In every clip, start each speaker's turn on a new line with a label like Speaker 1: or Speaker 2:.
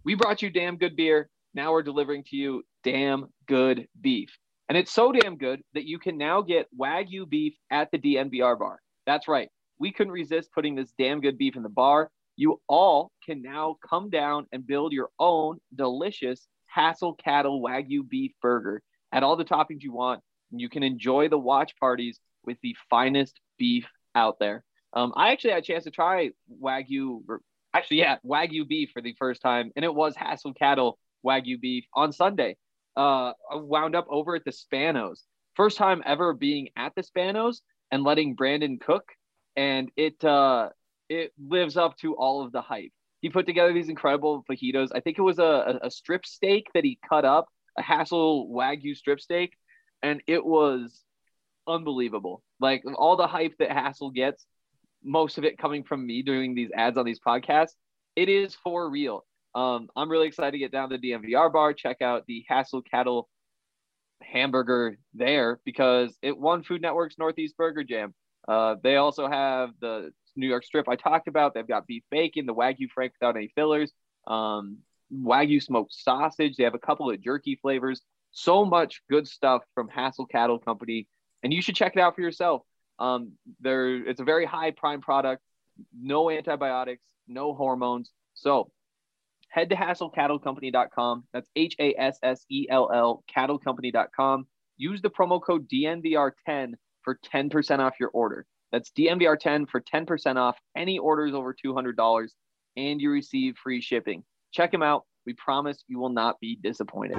Speaker 1: We brought you damn good beer. Now we're delivering to you damn good beef. And it's so damn good that you can now get Wagyu beef at the DNVR bar. That's right. We couldn't resist putting this damn good beef in the bar. You all can now come down and build your own delicious Hassel Cattle Wagyu beef burger. Add all the toppings you want, and you can enjoy the watch parties with the finest beef out there. I actually had a chance to try Wagyu beef for the first time, and it was Hassel Cattle Wagyu beef on Sunday. I wound up over at the Spanos. First time ever being at the Spanos and letting Brandon cook, and it lives up to all of the hype. He put together these incredible fajitas. I think it was a strip steak that he cut up, a Hassel Wagyu strip steak, and it was unbelievable. Like all the hype that Hassel gets, most of it coming from me doing these ads on these podcasts, it is for real. I'm really excited to get down to the DNVR bar, check out the Hassel Cattle hamburger there because it won Food Network's Northeast Burger Jam. They also have the New York strip I talked about. They've got beef bacon, the Wagyu Frank without any fillers, Wagyu smoked sausage. They have a couple of jerky flavors. So much good stuff from Hassel Cattle Company, and you should check it out for yourself. It's a very high prime product, no antibiotics, no hormones. So head to HassellCattleCompany.com. That's HASSELL cattlecompany.com. Use the promo code DNVR10 for 10% off your order. That's DNVR10 for 10% off any orders over $200, and you receive free shipping. Check them out. We promise you will not be disappointed.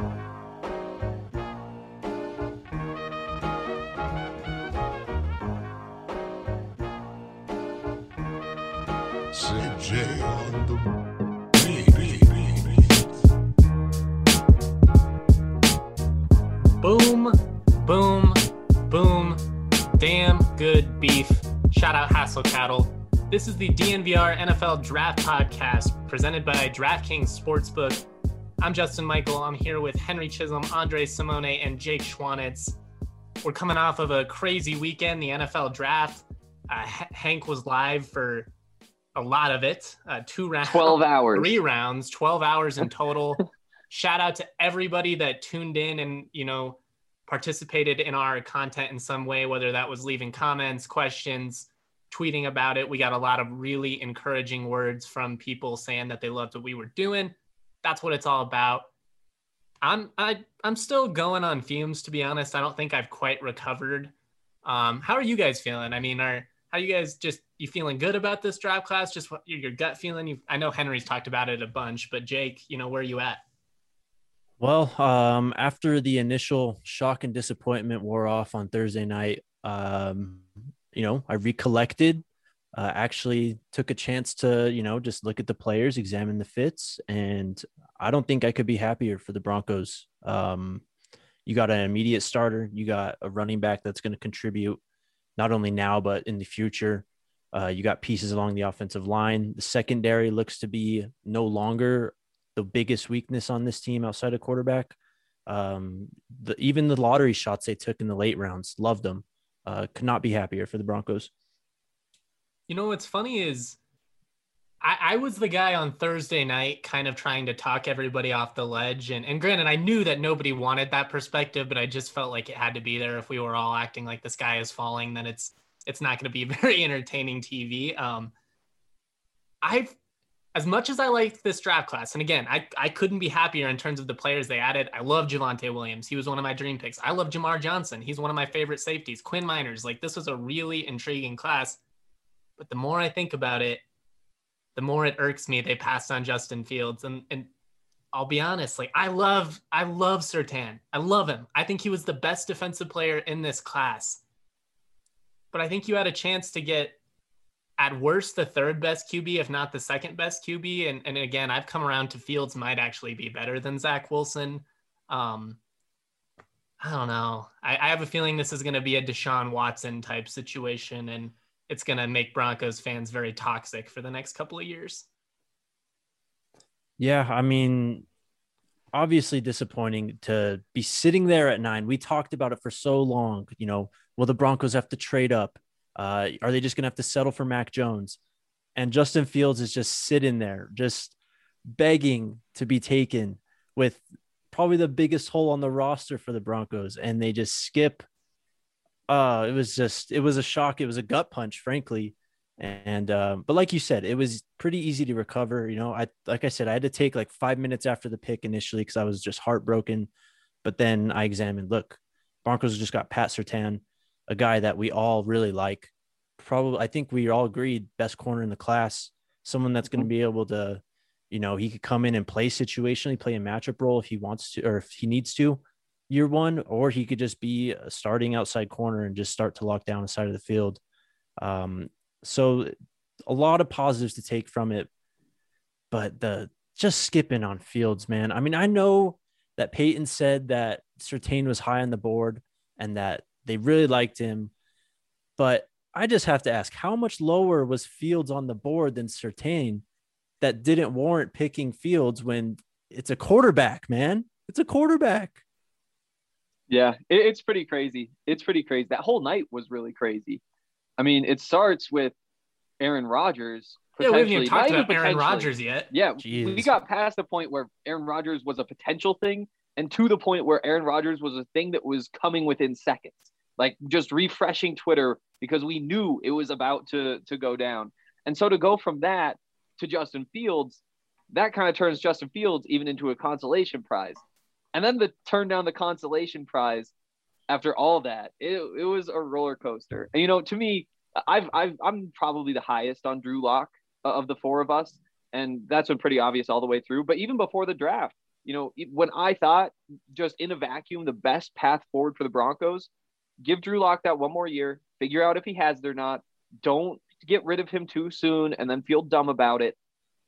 Speaker 2: CJ on the
Speaker 3: Boom, boom, boom. Damn good beef. Shout out Hassel Cattle. This is the DNVR NFL Draft Podcast presented by DraftKings Sportsbook. I'm Justin Michael. I'm here with Henry Chisholm, Andre Simone, and Jake Schwanitz. We're coming off of a crazy weekend, the NFL Draft. Hank was live for a lot of it. 2 rounds.
Speaker 1: 12 hours.
Speaker 3: 3 rounds, 12 hours in total. Shout out to everybody that tuned in and, participated in our content in some way, whether that was leaving comments, questions, tweeting about it. We got a lot of really encouraging words from people saying that they loved what we were doing. That's what it's all about. I'm still going on fumes, to be honest. I don't think I've quite recovered. How are you guys feeling? I mean, how you guys you feeling good about this draft class? Just what your gut feeling? I know Henry's talked about it a bunch, but Jake, where are you at?
Speaker 4: Well, after the initial shock and disappointment wore off on Thursday night, I recollected, actually took a chance to, just look at the players, examine the fits, and I don't think I could be happier for the Broncos. You got an immediate starter. You got a running back that's going to contribute not only now, but in the future. You got pieces along the offensive line. The secondary looks to be no longer the biggest weakness on this team outside of quarterback. Even the lottery shots they took in the late rounds, loved them. Could not be happier for the Broncos.
Speaker 3: What's funny is I was the guy on Thursday night kind of trying to talk everybody off the ledge. And granted, I knew that nobody wanted that perspective, but I just felt like it had to be there. If we were all acting like the sky is falling, then it's not going to be very entertaining TV. As much as I liked this draft class, and again, I couldn't be happier in terms of the players they added. I love Javonte Williams. He was one of my dream picks. I love Jamar Johnson. He's one of my favorite safeties. Quinn Miners. This was a really intriguing class. But the more I think about it, the more it irks me they passed on Justin Fields. And I'll be honest, I love Surtain. I love him. I think he was the best defensive player in this class. But I think you had a chance to get, at worst, the 3rd best QB, if not the 2nd best QB. And again, I've come around to Fields might actually be better than Zach Wilson. I don't know. I have a feeling this is going to be a Deshaun Watson type situation, and it's going to make Broncos fans very toxic for the next couple of years.
Speaker 4: Yeah, I mean, obviously disappointing to be sitting there at 9. We talked about it for so long. Will the Broncos have to trade up? Are they just going to have to settle for Mac Jones? And Justin Fields is just sitting there, just begging to be taken with probably the biggest hole on the roster for the Broncos, and they just skip. It was a shock. It was a gut punch, frankly. And but like you said, it was pretty easy to recover. Like I said, I had to take like 5 minutes after the pick initially because I was just heartbroken. But then I examined, look, Broncos just got Pat Surtain, a guy that we all really like. Probably, I think we all agreed, best corner in the class, someone that's going to be able to, he could come in and play situationally, play a matchup role if he wants to, or if he needs to year one, or he could just be a starting outside corner and just start to lock down the side of the field. So a lot of positives to take from it, but the just skipping on Fields, man. I mean, I know that Peyton said that Surtain was high on the board and that they really liked him, but I just have to ask, how much lower was Fields on the board than Surtain that didn't warrant picking Fields when it's a quarterback, man? It's a quarterback.
Speaker 1: Yeah, it's pretty crazy. It's pretty crazy. That whole night was really crazy. I mean, it starts with Aaron Rodgers.
Speaker 3: Yeah, we haven't even talked about Aaron Rodgers yet.
Speaker 1: Yeah,
Speaker 4: Jeez.
Speaker 1: We got past the point where Aaron Rodgers was a potential thing and to the point where Aaron Rodgers was a thing that was coming within seconds. Like just refreshing Twitter because we knew it was about to go down. And so to go from that to Justin Fields, that kind of turns Justin Fields even into a consolation prize. And then to turn down the consolation prize after all that, it was a roller coaster. And, to me, I'm probably the highest on Drew Lock of the four of us. And that's been pretty obvious all the way through. But even before the draft, when I thought just in a vacuum, the best path forward for the Broncos, give Drew Lock that one more year, figure out if he has it or not. Don't get rid of him too soon and then feel dumb about it.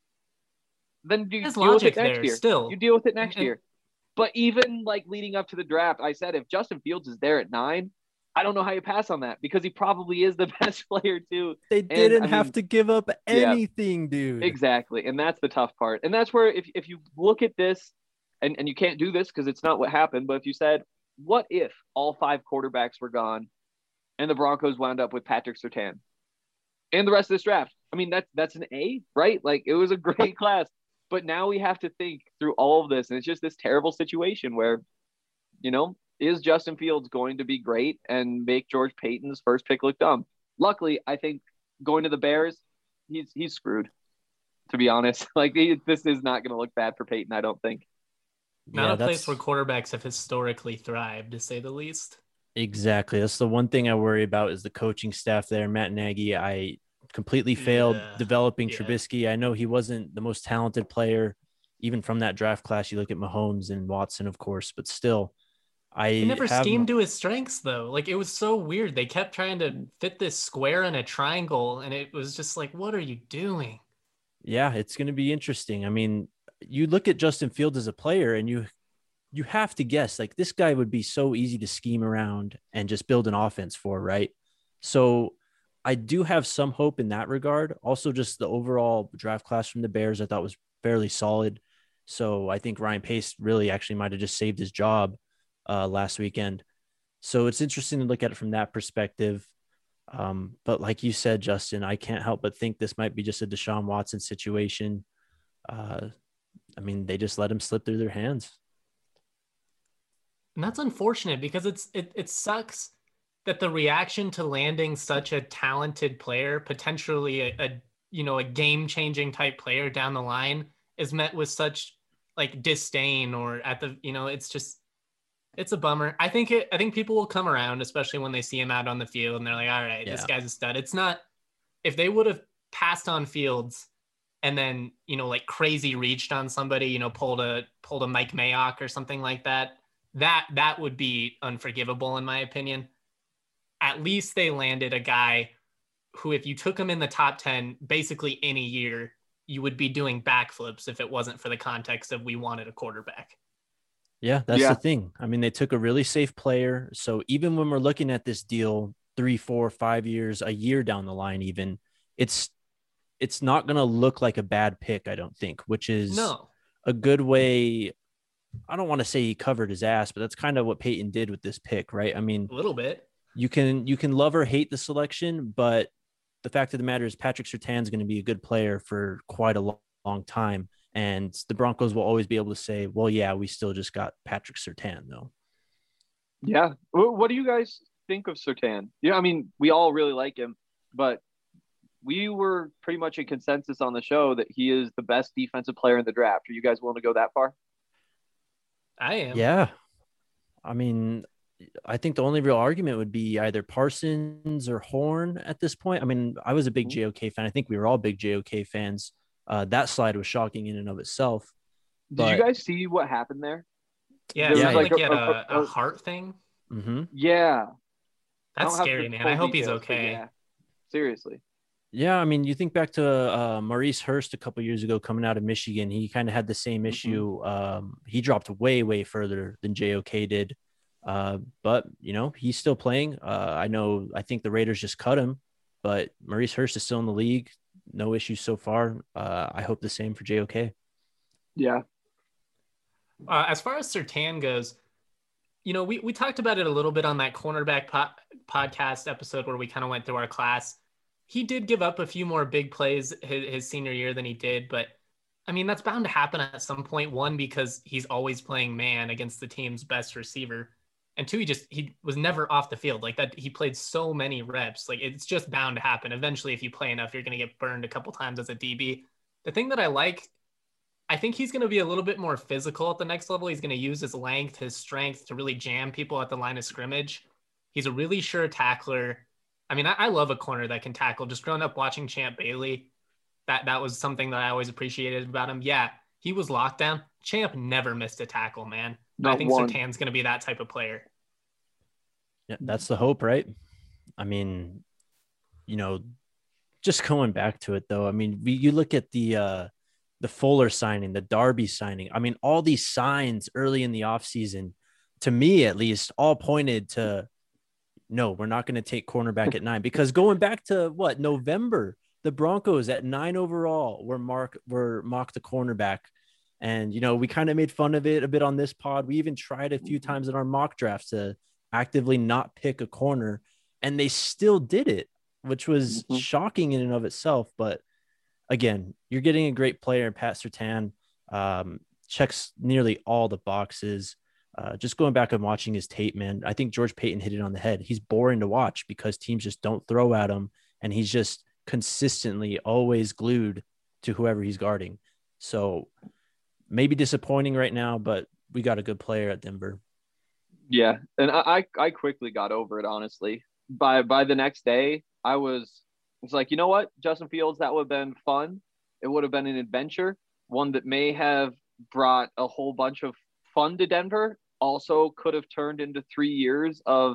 Speaker 1: Then you deal with it next year.
Speaker 3: Still.
Speaker 1: You deal with it next year. But even like leading up to the draft, I said, if Justin Fields is there at 9, I don't know how you pass on that because he probably is the best player too.
Speaker 4: They didn't have to give up anything, dude.
Speaker 1: Exactly. And that's the tough part. And that's where if you look at this and you can't do this because it's not what happened, but if you said, what if all 5 quarterbacks were gone and the Broncos wound up with Patrick Surtain and the rest of this draft? I mean, that's an A, right? Like it was a great class. But now we have to think through all of this. And it's just this terrible situation where, is Justin Fields going to be great and make George Payton's first pick look dumb? Luckily, I think going to the Bears, he's screwed, to be honest. Like this is not going to look bad for Payton, I don't think.
Speaker 3: Not a place where quarterbacks have historically thrived, to say the least.
Speaker 4: Exactly. That's the one thing I worry about is the coaching staff there. Matt Nagy, I completely failed developing Trubisky. I know he wasn't the most talented player, even from that draft class. You look at Mahomes and Watson, of course, but still,
Speaker 3: he never schemed to his strengths, though. Like, it was so weird. They kept trying to fit this square in a triangle, and it was just like, what are you doing?
Speaker 4: Yeah, it's going to be interesting. I mean, you look at Justin Fields as a player, and you have to guess, like, this guy would be so easy to scheme around and just build an offense for, right? So I do have some hope in that regard. Also, just the overall draft class from the Bears, I thought was fairly solid. So I think Ryan Pace really actually might have just saved his job last weekend. So it's interesting to look at it from that perspective. But like you said, Justin, I can't help but think this might be just a Deshaun Watson situation. I mean, they just let him slip through their hands.
Speaker 3: And that's unfortunate because it sucks that the reaction to landing such a talented player, potentially a game-changing type player down the line, is met with such like disdain or it's a bummer. I think people will come around, especially when they see him out on the field and they're like, all right, This guy's a stud. It's not, if they would have passed on Fields and then, like crazy reached on somebody, pulled a Mike Mayock or something like that, that would be unforgivable in my opinion. At least they landed a guy who, if you took him in the top 10, basically any year, you would be doing backflips if it wasn't for the context of we wanted a quarterback.
Speaker 4: Yeah, that's the thing. I mean, they took a really safe player. So even when we're looking at this deal 3, 4, 5 years, a year down the line, even it's not going to look like a bad pick, I don't think, which is a good way. I don't want to say he covered his ass, but that's kind of what Peyton did with this pick, right? I mean,
Speaker 3: a little bit.
Speaker 4: You can love or hate the selection, but the fact of the matter is Patrick Surtain is going to be a good player for quite a long time. And the Broncos will always be able to say, well, yeah, we still just got Patrick Surtain, though.
Speaker 1: Yeah. What do you guys think of Surtain? Yeah, I mean, we all really like him, but we were pretty much in consensus on the show that he is the best defensive player in the draft. Are you guys willing to go that far?
Speaker 3: I am.
Speaker 4: Yeah. I mean, I think the only real argument would be either Parsons or Horn at this point. I mean, I was a big JOK fan. I think we were all big JOK fans. That slide was shocking in and of itself.
Speaker 1: Did you guys see what happened there?
Speaker 3: Yeah, it like he had a heart thing.
Speaker 4: Mm-hmm.
Speaker 1: Yeah.
Speaker 3: That's scary, man. I hope he's okay.
Speaker 1: Yeah. Seriously.
Speaker 4: Yeah, I mean, you think back to Maurice Hurst a couple years ago coming out of Michigan. He kind of had the same issue. He dropped way, way further than JOK did. But, you know, he's still playing. I think the Raiders just cut him, but Maurice Hurst is still in the league. No issues so far. I hope the same for JOK.
Speaker 1: Yeah.
Speaker 3: As far as Surtain goes, you know, we talked about it a little bit on that cornerback podcast episode where we kind of went through our class. He did give up a few more big plays his senior year than he did, but I mean, that's bound to happen at some point. One, because he's always playing man against the team's best receiver. And two, he was never off the field like that. He played so many reps. Like, it's just bound to happen. Eventually, if you play enough, you're going to get burned a couple times as a DB. The thing that I think he's going to be a little bit more physical at the next level. He's going to use his length, his strength to really jam people at the line of scrimmage. He's a really sure tackler. I mean, I love a corner that can tackle. Just growing up watching Champ Bailey, that was something that I always appreciated about him. Yeah, he was lockdown. Champ never missed a tackle, man. I think Surtain's going to be that type of player.
Speaker 4: Yeah, that's the hope, right? I mean, you know, just going back to it, though, I mean, you look at the Fuller signing, the Darby signing. I mean, all these signs early in the offseason, to me at least, all pointed to, no, we're not going to take cornerback at 9, because going back to November, the Broncos at 9 overall were mocked the cornerback. And, you know, we kind of made fun of it a bit on this pod. We even tried a few times in our mock drafts to actively not pick a corner, and they still did it, which was shocking in and of itself. But again, you're getting a great player. Pat Surtain checks nearly all the boxes. Just going back and watching his tape, man, I think George Payton hit it on the head. He's boring to watch because teams just don't throw at him, and he's just consistently always glued to whoever he's guarding. So maybe disappointing right now, but we got a good player at Denver.
Speaker 1: Yeah, and I quickly got over it, honestly. By the next day, I was like, you know what, Justin Fields, that would have been fun. It would have been an adventure, one that may have brought a whole bunch of fun to Denver. Also could have turned into 3 years of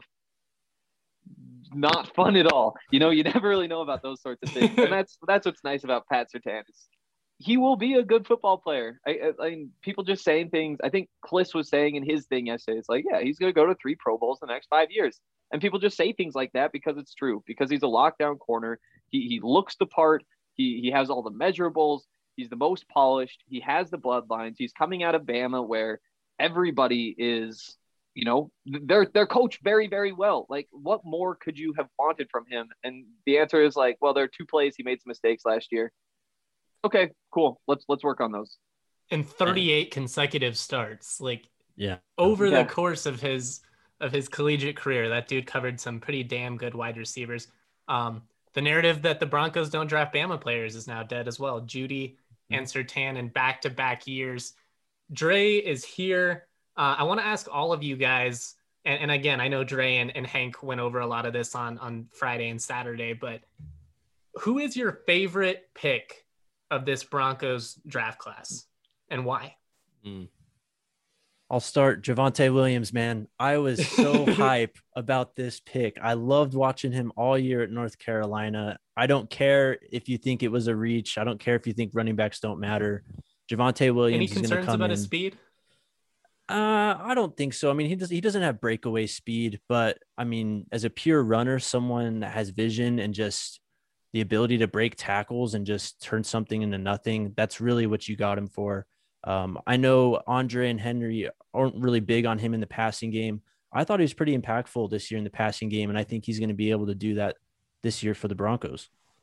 Speaker 1: not fun at all. You know, you never really know about those sorts of things. And that's what's nice about Pat Surtain. He will be a good football player. I mean, people just saying things. I think Kliss was saying in his thing yesterday, it's like, yeah, he's going to go to 3 Pro Bowls in the next 5 years. And people just say things like that because it's true, because he's a lockdown corner. He looks the part. He has all the measurables. He's the most polished. He has the bloodlines. He's coming out of Bama, where everybody is, you know, they're coached very, very well. Like, what more could you have wanted from him? And the answer is like, well, there are 2 plays he made some mistakes last year. Okay, cool. Let's work on those.
Speaker 3: And 38 consecutive starts, like,
Speaker 4: yeah,
Speaker 3: over the course of his collegiate career, that dude covered some pretty damn good wide receivers. The narrative that the Broncos don't draft Bama players is now dead as well. Judy and Surtain in back-to-back years. Dre is here. I want to ask all of you guys, and again, I know Dre and Hank went over a lot of this on Friday and Saturday, but who is your favorite pick of this Broncos draft class, and why?
Speaker 4: I'll start. Javonte Williams, man. I was so hype about this pick. I loved watching him all year at North Carolina. I don't care if you think it was a reach. I don't care if you think running backs don't matter. Javonte Williams is going to come in. Any concerns
Speaker 3: about his speed?
Speaker 4: I don't think so. I mean, he doesn't have breakaway speed, but I mean, as a pure runner, someone that has vision and just the ability to break tackles and just turn something into nothing, that's really what you got him for. I know Andre and Henry aren't really big on him in the passing game. I thought he was pretty impactful this year in the passing game, and I think he's going to be able to do that this year for the Broncos.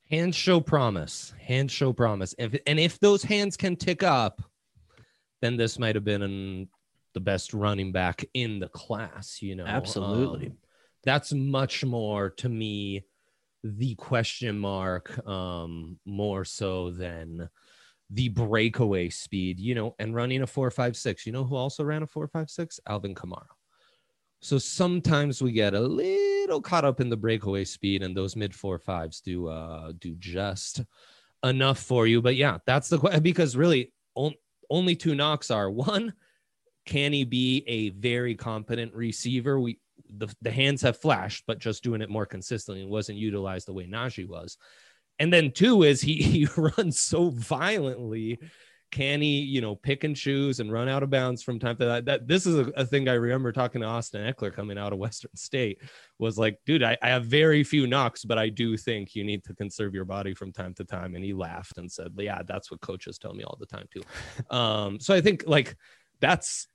Speaker 2: Hands show promise. Hands show promise. If those hands can tick up, then this might have been the best running back in the class, you know.
Speaker 4: Absolutely.
Speaker 2: That's much more to me the question mark, more so than the breakaway speed, you know, and running a 4.56. You know who also ran a 4.56? Alvin Kamara. So sometimes we get a little caught up in the breakaway speed, and those mid 4.5s do just enough for you. But yeah, that's the question, because really only two knocks are: one, can he be a very competent receiver? The hands have flashed, but just doing it more consistently and wasn't utilized the way Najee was. And then two is he runs so violently. Can he, you know, pick and choose and run out of bounds from time to time? That this is a thing I remember talking to Austin Eckler coming out of Western State, was like, dude, I have very few knocks, but I do think you need to conserve your body from time to time. And he laughed and said, yeah, that's what coaches tell me all the time too. So I think like that's,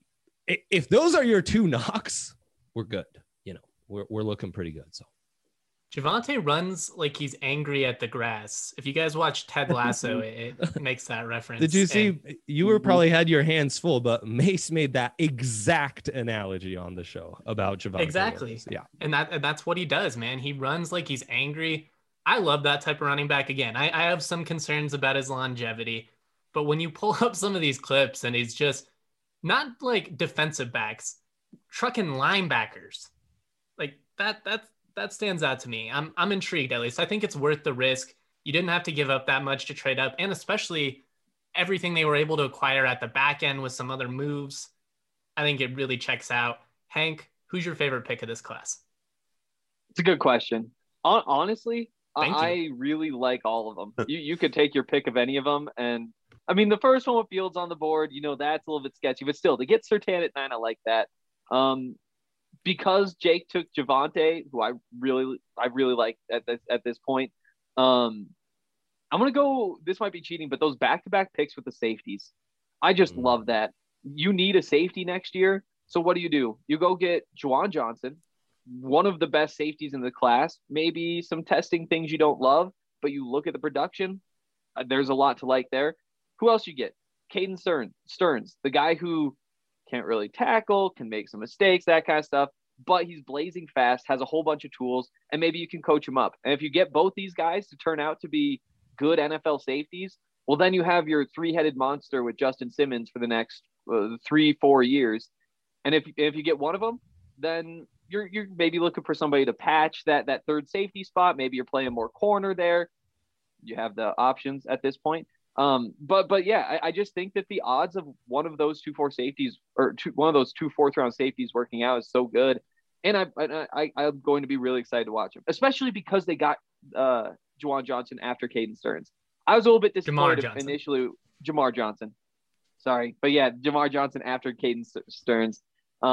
Speaker 2: if those are your two knocks, we're good. You know, we're looking pretty good. So
Speaker 3: Javonte runs like he's angry at the grass. If you guys watch Ted Lasso, it makes that reference.
Speaker 2: Did you see? You were probably had your hands full, but Mace made that exact analogy on the show about Javonte.
Speaker 3: Exactly.
Speaker 2: Williams. Yeah,
Speaker 3: and that's what he does, man. He runs like he's angry. I love that type of running back. Again, I have some concerns about his longevity, but when you pull up some of these clips and he's just not like defensive backs, trucking linebackers, like that stands out to me. I'm intrigued, at least. I think it's worth the risk. You didn't have to give up that much to trade up, and especially everything they were able to acquire at the back end with some other moves. I think it really checks out. Hank, who's your favorite pick of this class?
Speaker 1: It's a good question. Honestly, I really like all of them. You could take your pick of any of them. And I mean, the first one with Fields on the board, you know, that's a little bit sketchy, but still to get Surtain at 9, I like that. Because Jake took Javonte, who I really like at this point. I'm gonna go. This might be cheating, but those back-to-back picks with the safeties, I just love that. You need a safety next year, so what do? You go get Juwan Johnson, one of the best safeties in the class. Maybe some testing things you don't love, but you look at the production. There's a lot to like there. Who else you get? Caden Stearns, the guy who can't really tackle, can make some mistakes, that kind of stuff, but he's blazing fast, has a whole bunch of tools, and maybe you can coach him up. And if you get both these guys to turn out to be good NFL safeties, well, then you have your three-headed monster with Justin Simmons for the next 3-4 years. And if you get one of them, then you're maybe looking for somebody to patch that third safety spot. Maybe you're playing more corner there. You have the options at this point. But yeah, I just think that the odds of one of those 2-4 safeties or one of those 2 4th-round safeties working out is so good. And I'm going to be really excited to watch them, especially because they got Juwan Johnson after Caden Stearns. I was a little bit disappointed initially. Jamar Johnson. Sorry. But yeah, Jamar Johnson after Caden Stearns.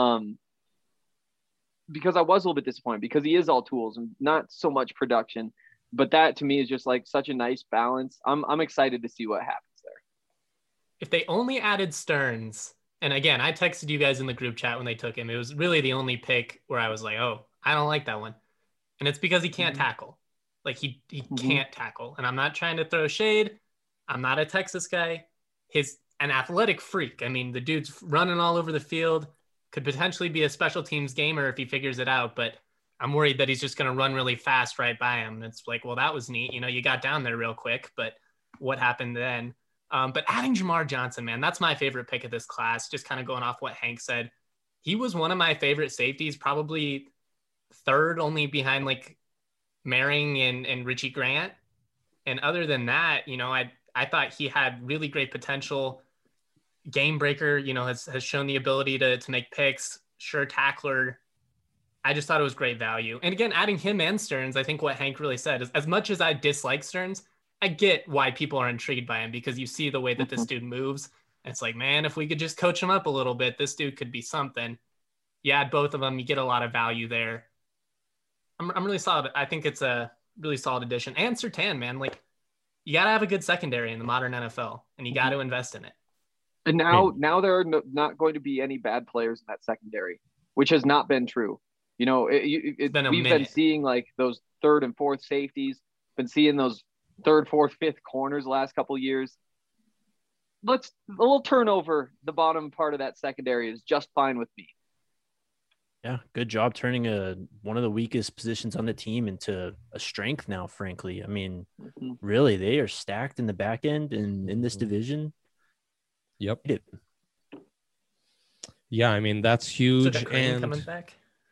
Speaker 1: Because I was a little bit disappointed because he is all tools and not so much production. But that to me is just like such a nice balance. I'm excited to see what happens there.
Speaker 3: If they only added Stearns, and again, I texted you guys in the group chat when they took him. It was really the only pick where I was like, oh, I don't like that one. And it's because he can't tackle. Like he can't tackle. And I'm not trying to throw shade. I'm not a Texas guy. He's an athletic freak. I mean, the dude's running all over the field, could potentially be a special teams gamer if he figures it out, but I'm worried that he's just going to run really fast right by him. It's like, well, that was neat. You know, you got down there real quick, but what happened then? But adding Jamar Johnson, man, that's my favorite pick of this class. Just kind of going off what Hank said. He was one of my favorite safeties, probably third only behind like Merring and Richie Grant. And other than that, you know, I thought he had really great potential. Game breaker, you know, has shown the ability to make picks, sure tackler. I just thought it was great value. And again, adding him and Stearns, I think what Hank really said is, as much as I dislike Stearns, I get why people are intrigued by him, because you see the way that this dude moves. And it's like, man, if we could just coach him up a little bit, this dude could be something. You add both of them, you get a lot of value there. I'm really solid. I think it's a really solid addition. And Surtain, man, like you got to have a good secondary in the modern NFL, and you got to invest in it.
Speaker 1: And now there are not going to be any bad players in that secondary, which has not been true. You know, we've been seeing like those 3rd and 4th safeties. Been seeing those third, fourth, fifth corners the last couple of years. A little turnover the bottom part of that secondary is just fine with me.
Speaker 4: Yeah, good job turning one of the weakest positions on the team into a strength now, frankly. I mean, really, they are stacked in the back end and in this division.
Speaker 2: Yep. Yeah, I mean, that's huge.
Speaker 3: So Kareem coming back?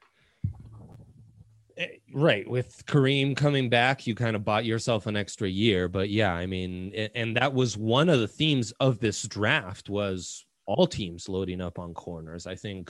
Speaker 2: Right. With Kareem coming back, you kind of bought yourself an extra year. But yeah, I mean, and that was one of the themes of this draft was all teams loading up on corners. I think,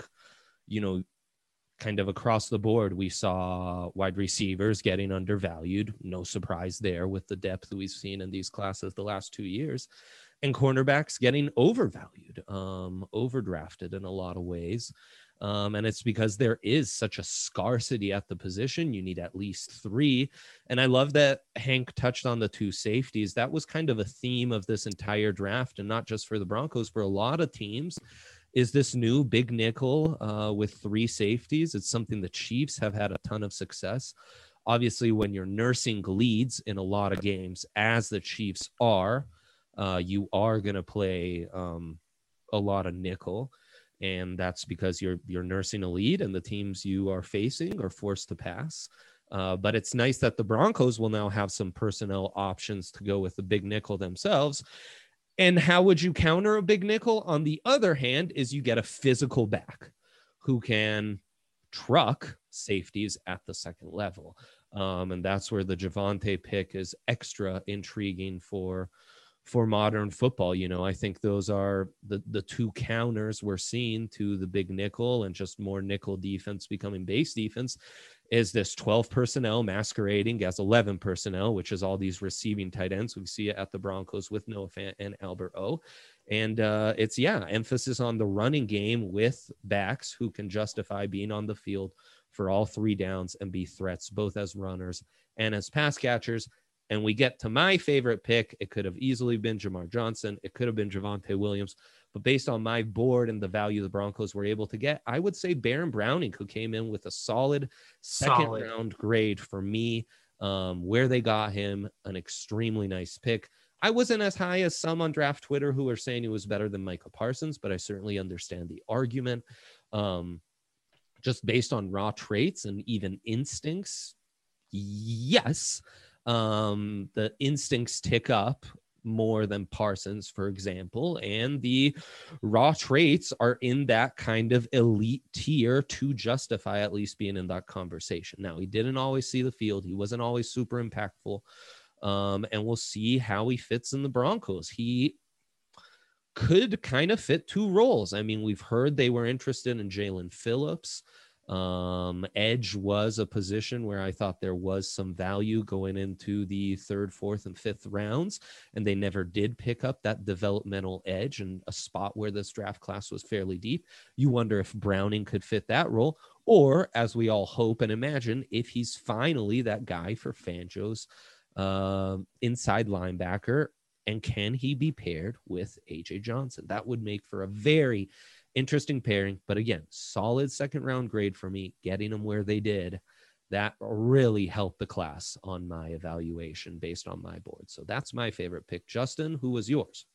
Speaker 2: kind of across the board, we saw wide receivers getting undervalued. No surprise there with the depth that we've seen in these classes the last 2 years. And cornerbacks getting overvalued, overdrafted in a lot of ways. And it's because there is such a scarcity at the position. You need at least 3. And I love that Hank touched on the 2 safeties. That was kind of a theme of this entire draft, and not just for the Broncos, for a lot of teams, is this new big nickel with 3 safeties. It's something the Chiefs have had a ton of success. Obviously, when you're nursing leads in a lot of games, as the Chiefs are, you are going to play a lot of nickel. And that's because you're nursing a lead and the teams you are facing are forced to pass. But it's nice that the Broncos will now have some personnel options to go with the big nickel themselves. And how would you counter a big nickel? On the other hand, is you get a physical back who can truck safeties at the second level. And that's where the Javonte pick is extra intriguing for modern football. I think those are the 2 counters we're seeing to the big nickel and just more nickel defense becoming base defense is this 12 personnel masquerading as 11 personnel, which is all these receiving tight ends. We see it at the Broncos with Noah Fant and Albert O. And it's emphasis on the running game with backs who can justify being on the field for all 3 downs and be threats, both as runners and as pass catchers. And we get to my favorite pick. It could have easily been Jamar Johnson. It could have been Javonte Williams. But based on my board and the value the Broncos were able to get, I would say Baron Browning, who came in with a solid second round grade for me, where they got him, an extremely nice pick. I wasn't as high as some on draft Twitter who were saying he was better than Micah Parsons, but I certainly understand the argument. Just based on raw traits and even instincts, yes. The instincts tick up more than Parsons, for example, and the raw traits are in that kind of elite tier to justify at least being in that conversation. Now, he didn't always see the field. He wasn't always super impactful. And we'll see how he fits in the Broncos. He could kind of fit 2 roles. I mean, we've heard they were interested in Jalen Phillips. Edge was a position where I thought there was some value going into the 3rd, 4th, and 5th rounds, and they never did pick up that developmental edge, and a spot where this draft class was fairly deep. You wonder if Browning could fit that role, or, as we all hope and imagine, if he's finally that guy for Fangio's inside linebacker, and can he be paired with AJ Johnson? That would make for a very interesting pairing, but again, solid second round grade for me, getting them where they did. That really helped the class on my evaluation based on my board. So that's my favorite pick. Justin, who was yours?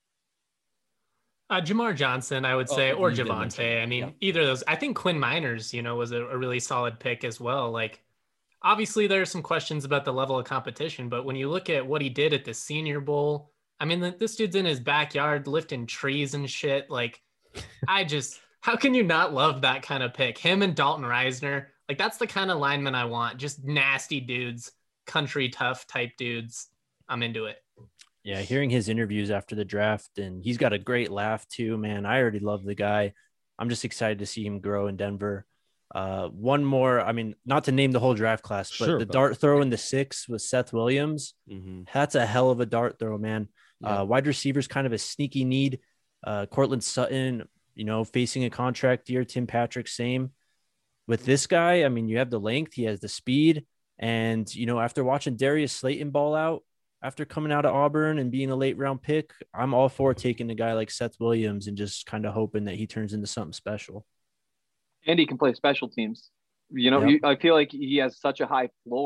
Speaker 3: Jamar Johnson, I would say, or Javonte. I mean, either of those. I think Quinn Miners, was a really solid pick as well. Like, obviously, there are some questions about the level of competition, but when you look at what he did at the Senior Bowl, I mean, this dude's in his backyard lifting trees and shit. Like, how can you not love that kind of pick? Him and Dalton Reisner, like, that's the kind of lineman I want. Just nasty dudes, country tough type dudes. I'm into it.
Speaker 4: Yeah, hearing his interviews after the draft, and he's got a great laugh too, man. I already love the guy. I'm just excited to see him grow in Denver. One more, I mean, not to name the whole draft class, but the dart throw in the 6 with Seth Williams. That's a hell of a dart throw, man. Wide receivers, kind of a sneaky need. Cortland Sutton, facing a contract year. Tim Patrick, same. With this guy, I mean, you have the length, he has the speed. And, after watching Darius Slayton ball out, after coming out of Auburn and being a late round pick, I'm all for taking a guy like Seth Williams and just kind of hoping that he turns into something special.
Speaker 1: And he can play special teams. I feel like he has such a high floor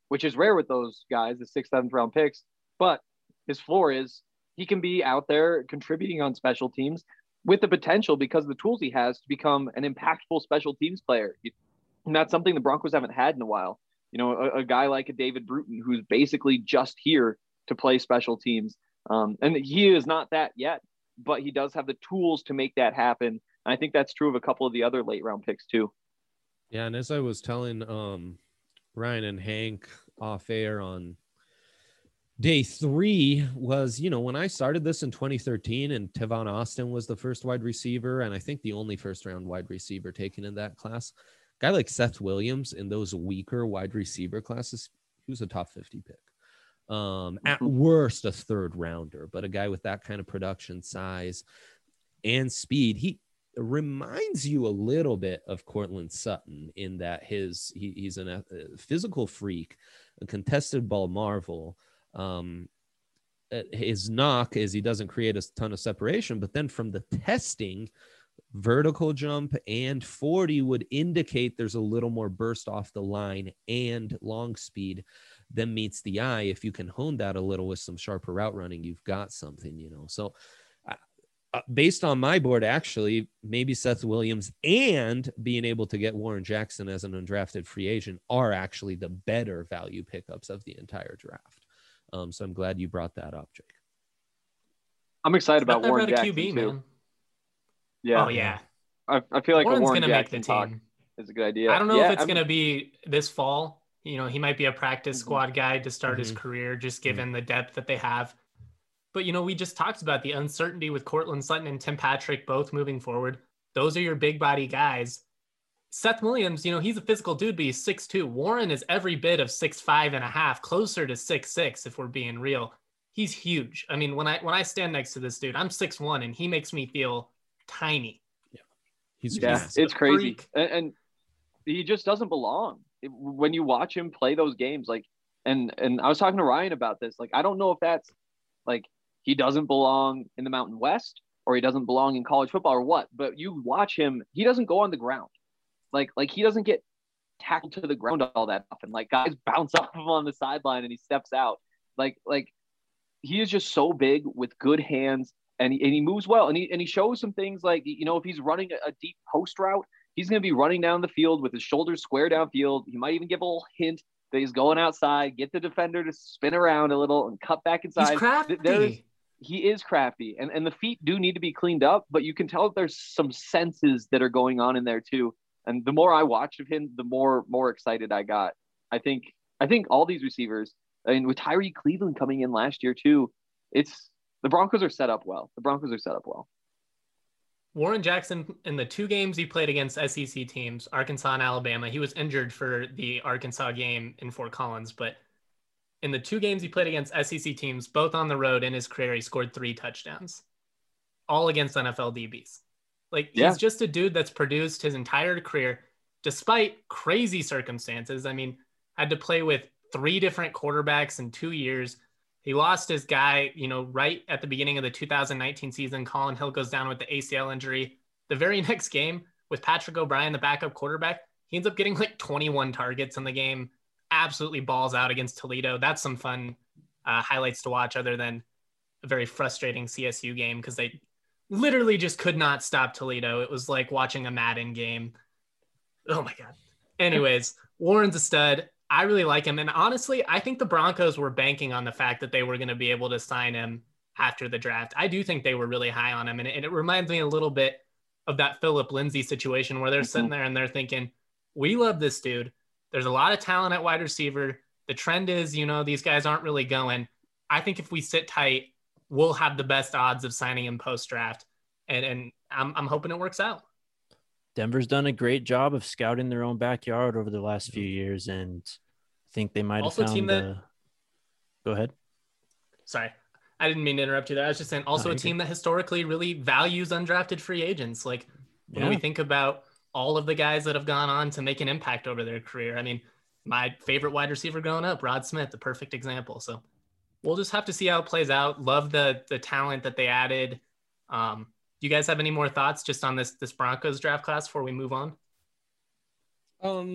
Speaker 1: which is rare with those guys, the 6th, 7th round picks. But his floor is he can be out there contributing on special teams with the potential, because of the tools he has, to become an impactful special teams player. And that's something the Broncos haven't had in a while. You know, a guy like a David Bruton, who's basically just here to play special teams. And he is not that yet, but he does have the tools to make that happen. And I think that's true of a couple of the other late round picks too.
Speaker 2: Yeah, and as I was telling Ryan and Hank off air on day 3 was, you know, when I started this in 2013 and Tavon Austin was the first wide receiver, and I think the only first round wide receiver taken in that class, a guy like Seth Williams in those weaker wide receiver classes, he was a top 50 pick. At worst, a 3rd rounder, but a guy with that kind of production, size, and speed, he reminds you a little bit of Courtland Sutton in that he's a physical freak, a contested ball marvel. His knock is he doesn't create a ton of separation, but then from the testing, vertical jump and 40 would indicate there's a little more burst off the line and long speed than meets the eye. If you can hone that a little with some sharper route running, you've got something, you know. So based on my board, actually, maybe Seth Williams and being able to get Warren Jackson as an undrafted free agent are actually the better value pickups of the entire draft. So I'm glad you brought that up, Jake.
Speaker 1: I'm excited about Warren Jackson
Speaker 3: QB,
Speaker 1: too.
Speaker 3: Man.
Speaker 1: Yeah.
Speaker 3: Oh yeah.
Speaker 1: I feel like
Speaker 3: Warren's
Speaker 1: a Warren
Speaker 3: gonna
Speaker 1: Jackson
Speaker 3: make the team.
Speaker 1: Is a good idea.
Speaker 3: I don't know if it's gonna be this fall. You know, he might be a practice squad guy to start his career, just given the depth that they have. But, you know, we just talked about the uncertainty with Courtland Sutton and Tim Patrick both moving forward. Those are your big body guys. Seth Williams, you know, he's a physical dude, but he's 6'2". Warren is every bit of 6'5.5", closer to 6'6", if we're being real. He's huge. I mean, when I stand next to this dude, I'm 6'1", and he makes me feel tiny.
Speaker 2: Yeah,
Speaker 1: it's crazy. And he just doesn't belong. When you watch him play those games, like, and I was talking to Ryan about this, like, I don't know if that's like he doesn't belong in the Mountain West or he doesn't belong in college football or what, but you watch him, he doesn't go on the ground. Like he doesn't get tackled to the ground all that often. Like, guys bounce off him on the sideline and he steps out. Like he is just so big with good hands, and he moves well, and he shows some things like, you know, if he's running a deep post route, he's going to be running down the field with his shoulders square downfield. He might even give a little hint that he's going outside, get the defender to spin around a little and cut back inside.
Speaker 3: He's crafty.
Speaker 1: He is crafty, and the feet do need to be cleaned up, but you can tell that there's some senses that are going on in there too. And the more I watched of him, the more excited I got. I think all these receivers, I mean, with Tyree Cleveland coming in last year too, the Broncos are set up well.
Speaker 3: Warren Jackson, in the 2 games he played against SEC teams, Arkansas and Alabama, he was injured for the Arkansas game in Fort Collins, but in the 2 games he played against SEC teams, both on the road in his career, he scored 3 touchdowns, all against NFL DBs. Like, he's just a dude that's produced his entire career, despite crazy circumstances. I mean, had to play with 3 different quarterbacks in 2 years. He lost his guy, you know, right at the beginning of the 2019 season. Colin Hill goes down with the ACL injury. The very next game with Patrick O'Brien, the backup quarterback, he ends up getting like 21 targets in the game. Absolutely balls out against Toledo. That's some fun highlights to watch, other than a very frustrating CSU game because they literally just could not stop Toledo. It was like watching a Madden game. Oh my God. Anyways, Warren's a stud. I really like him. And honestly, I think the Broncos were banking on the fact that they were going to be able to sign him after the draft. I do think they were really high on him. And it reminds me a little bit of that Phillip Lindsay situation where they're sitting there and they're thinking, we love this dude. There's a lot of talent at wide receiver. The trend is, you know, these guys aren't really going. I think if we sit tight, we'll have the best odds of signing him post-draft. And I'm hoping it works out.
Speaker 4: Denver's done a great job of scouting their own backyard over the last few years, and I think they might have
Speaker 3: also
Speaker 4: found Go ahead.
Speaker 3: Sorry, I didn't mean to interrupt you there. I was just saying also a team that historically really values undrafted free agents. Like when we think about all of the guys that have gone on to make an impact over their career. I mean, my favorite wide receiver growing up, Rod Smith, the perfect example. So we'll just have to see how it plays out. Love the talent that they added. Do you guys have any more thoughts just on this Broncos draft class before we move on?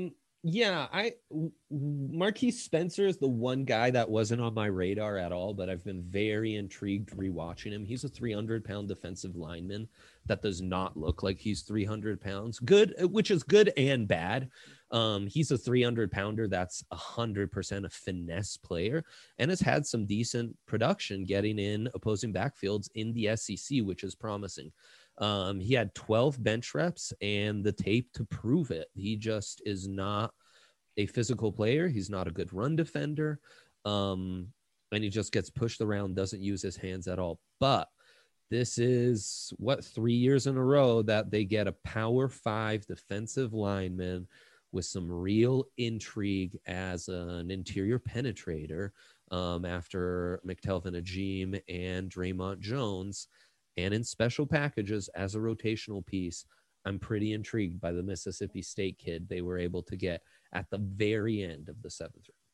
Speaker 2: Yeah, Marquise Spencer is the one guy that wasn't on my radar at all, but I've been very intrigued rewatching him. He's a 300-pound defensive lineman that does not look like he's 300 pounds. Good, which is good and bad. He's a 300-pounder that's 100% a finesse player and has had some decent production getting in opposing backfields in the SEC, which is promising. He had 12 bench reps and the tape to prove it. He just is not a physical player. He's not a good run defender. And he just gets pushed around, doesn't use his hands at all. But this is 3 years in a row that they get a Power 5 defensive lineman with some real intrigue as an interior penetrator after McTelvin Agim and Draymond Jones. And in special packages as a rotational piece, I'm pretty intrigued by the Mississippi State kid they were able to get at the very end of the 7th round.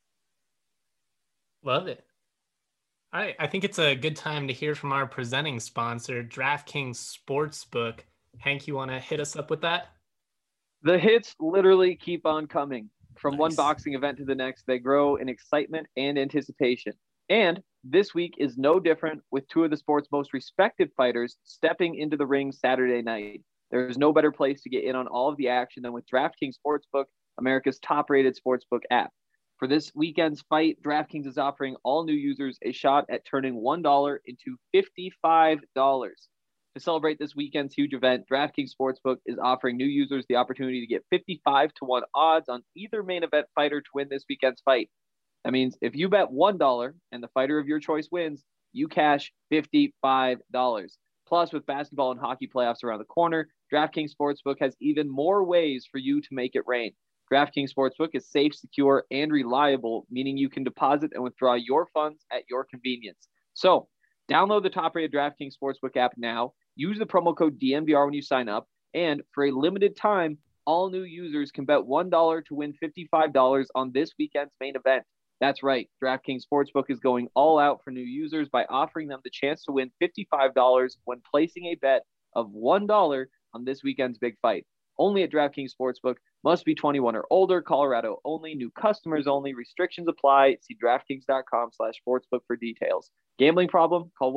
Speaker 3: Love it. All right. I think it's a good time to hear from our presenting sponsor, DraftKings Sportsbook. Hank, you want to hit us up with that?
Speaker 1: The hits literally keep on coming. From
Speaker 3: Nice.
Speaker 1: one boxing event to the next, they grow in excitement and anticipation. And this week is no different, with two of the sport's most respected fighters stepping into the ring Saturday night. There is no better place to get in on all of the action than with DraftKings Sportsbook, America's top-rated sportsbook app. For this weekend's fight, DraftKings is offering all new users a shot at turning $1 into $55. To celebrate this weekend's huge event, DraftKings Sportsbook is offering new users the opportunity to get 55-1 odds on either main event fighter to win this weekend's fight. That means if you bet $1 and the fighter of your choice wins, you cash $55. Plus, with basketball and hockey playoffs around the corner, DraftKings Sportsbook has even more ways for you to make it rain. DraftKings Sportsbook is safe, secure, and reliable, meaning you can deposit and withdraw your funds at your convenience. So, download the top-rated DraftKings Sportsbook app now. Use the promo code DNVR when you sign up. And for a limited time, all new users can bet $1 to win $55 on this weekend's main event. That's right. DraftKings Sportsbook is going all out for new users by offering them the chance to win $55 when placing a bet of $1 on this weekend's big fight. Only at DraftKings Sportsbook. Must be 21 or older. Colorado only. New customers only. Restrictions apply. See DraftKings.com/sportsbook for details. Gambling problem? Call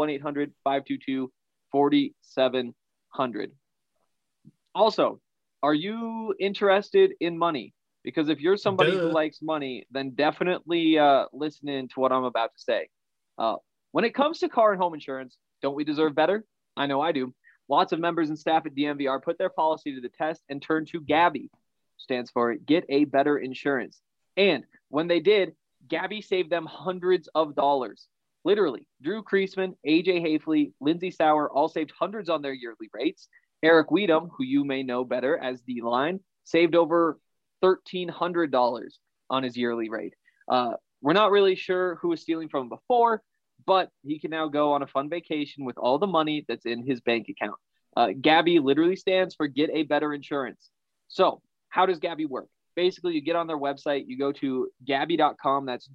Speaker 1: 1-800-522-4700. Also, are you interested in money? Because if you're somebody who likes money, then definitely listen in to what I'm about to say. When it comes to car and home insurance, don't we deserve better? I know I do. Lots of members and staff at DNVR put their policy to the test and turned to Gabi, stands for Get a Better Insurance. And when they did, Gabi saved them hundreds of dollars. Literally, Drew Kreisman, AJ Hafley, Lindsey Sauer all saved hundreds on their yearly rates. Eric Weedham, who you may know better as D-Line, saved over $1,300 on his yearly rate. We're not really sure who was stealing from him before, but he can now go on a fun vacation with all the money that's in his bank account. Gabi literally stands for Get a Better Insurance. So how does Gabi work? Basically, you get on their website, you go to Gabi.com, that's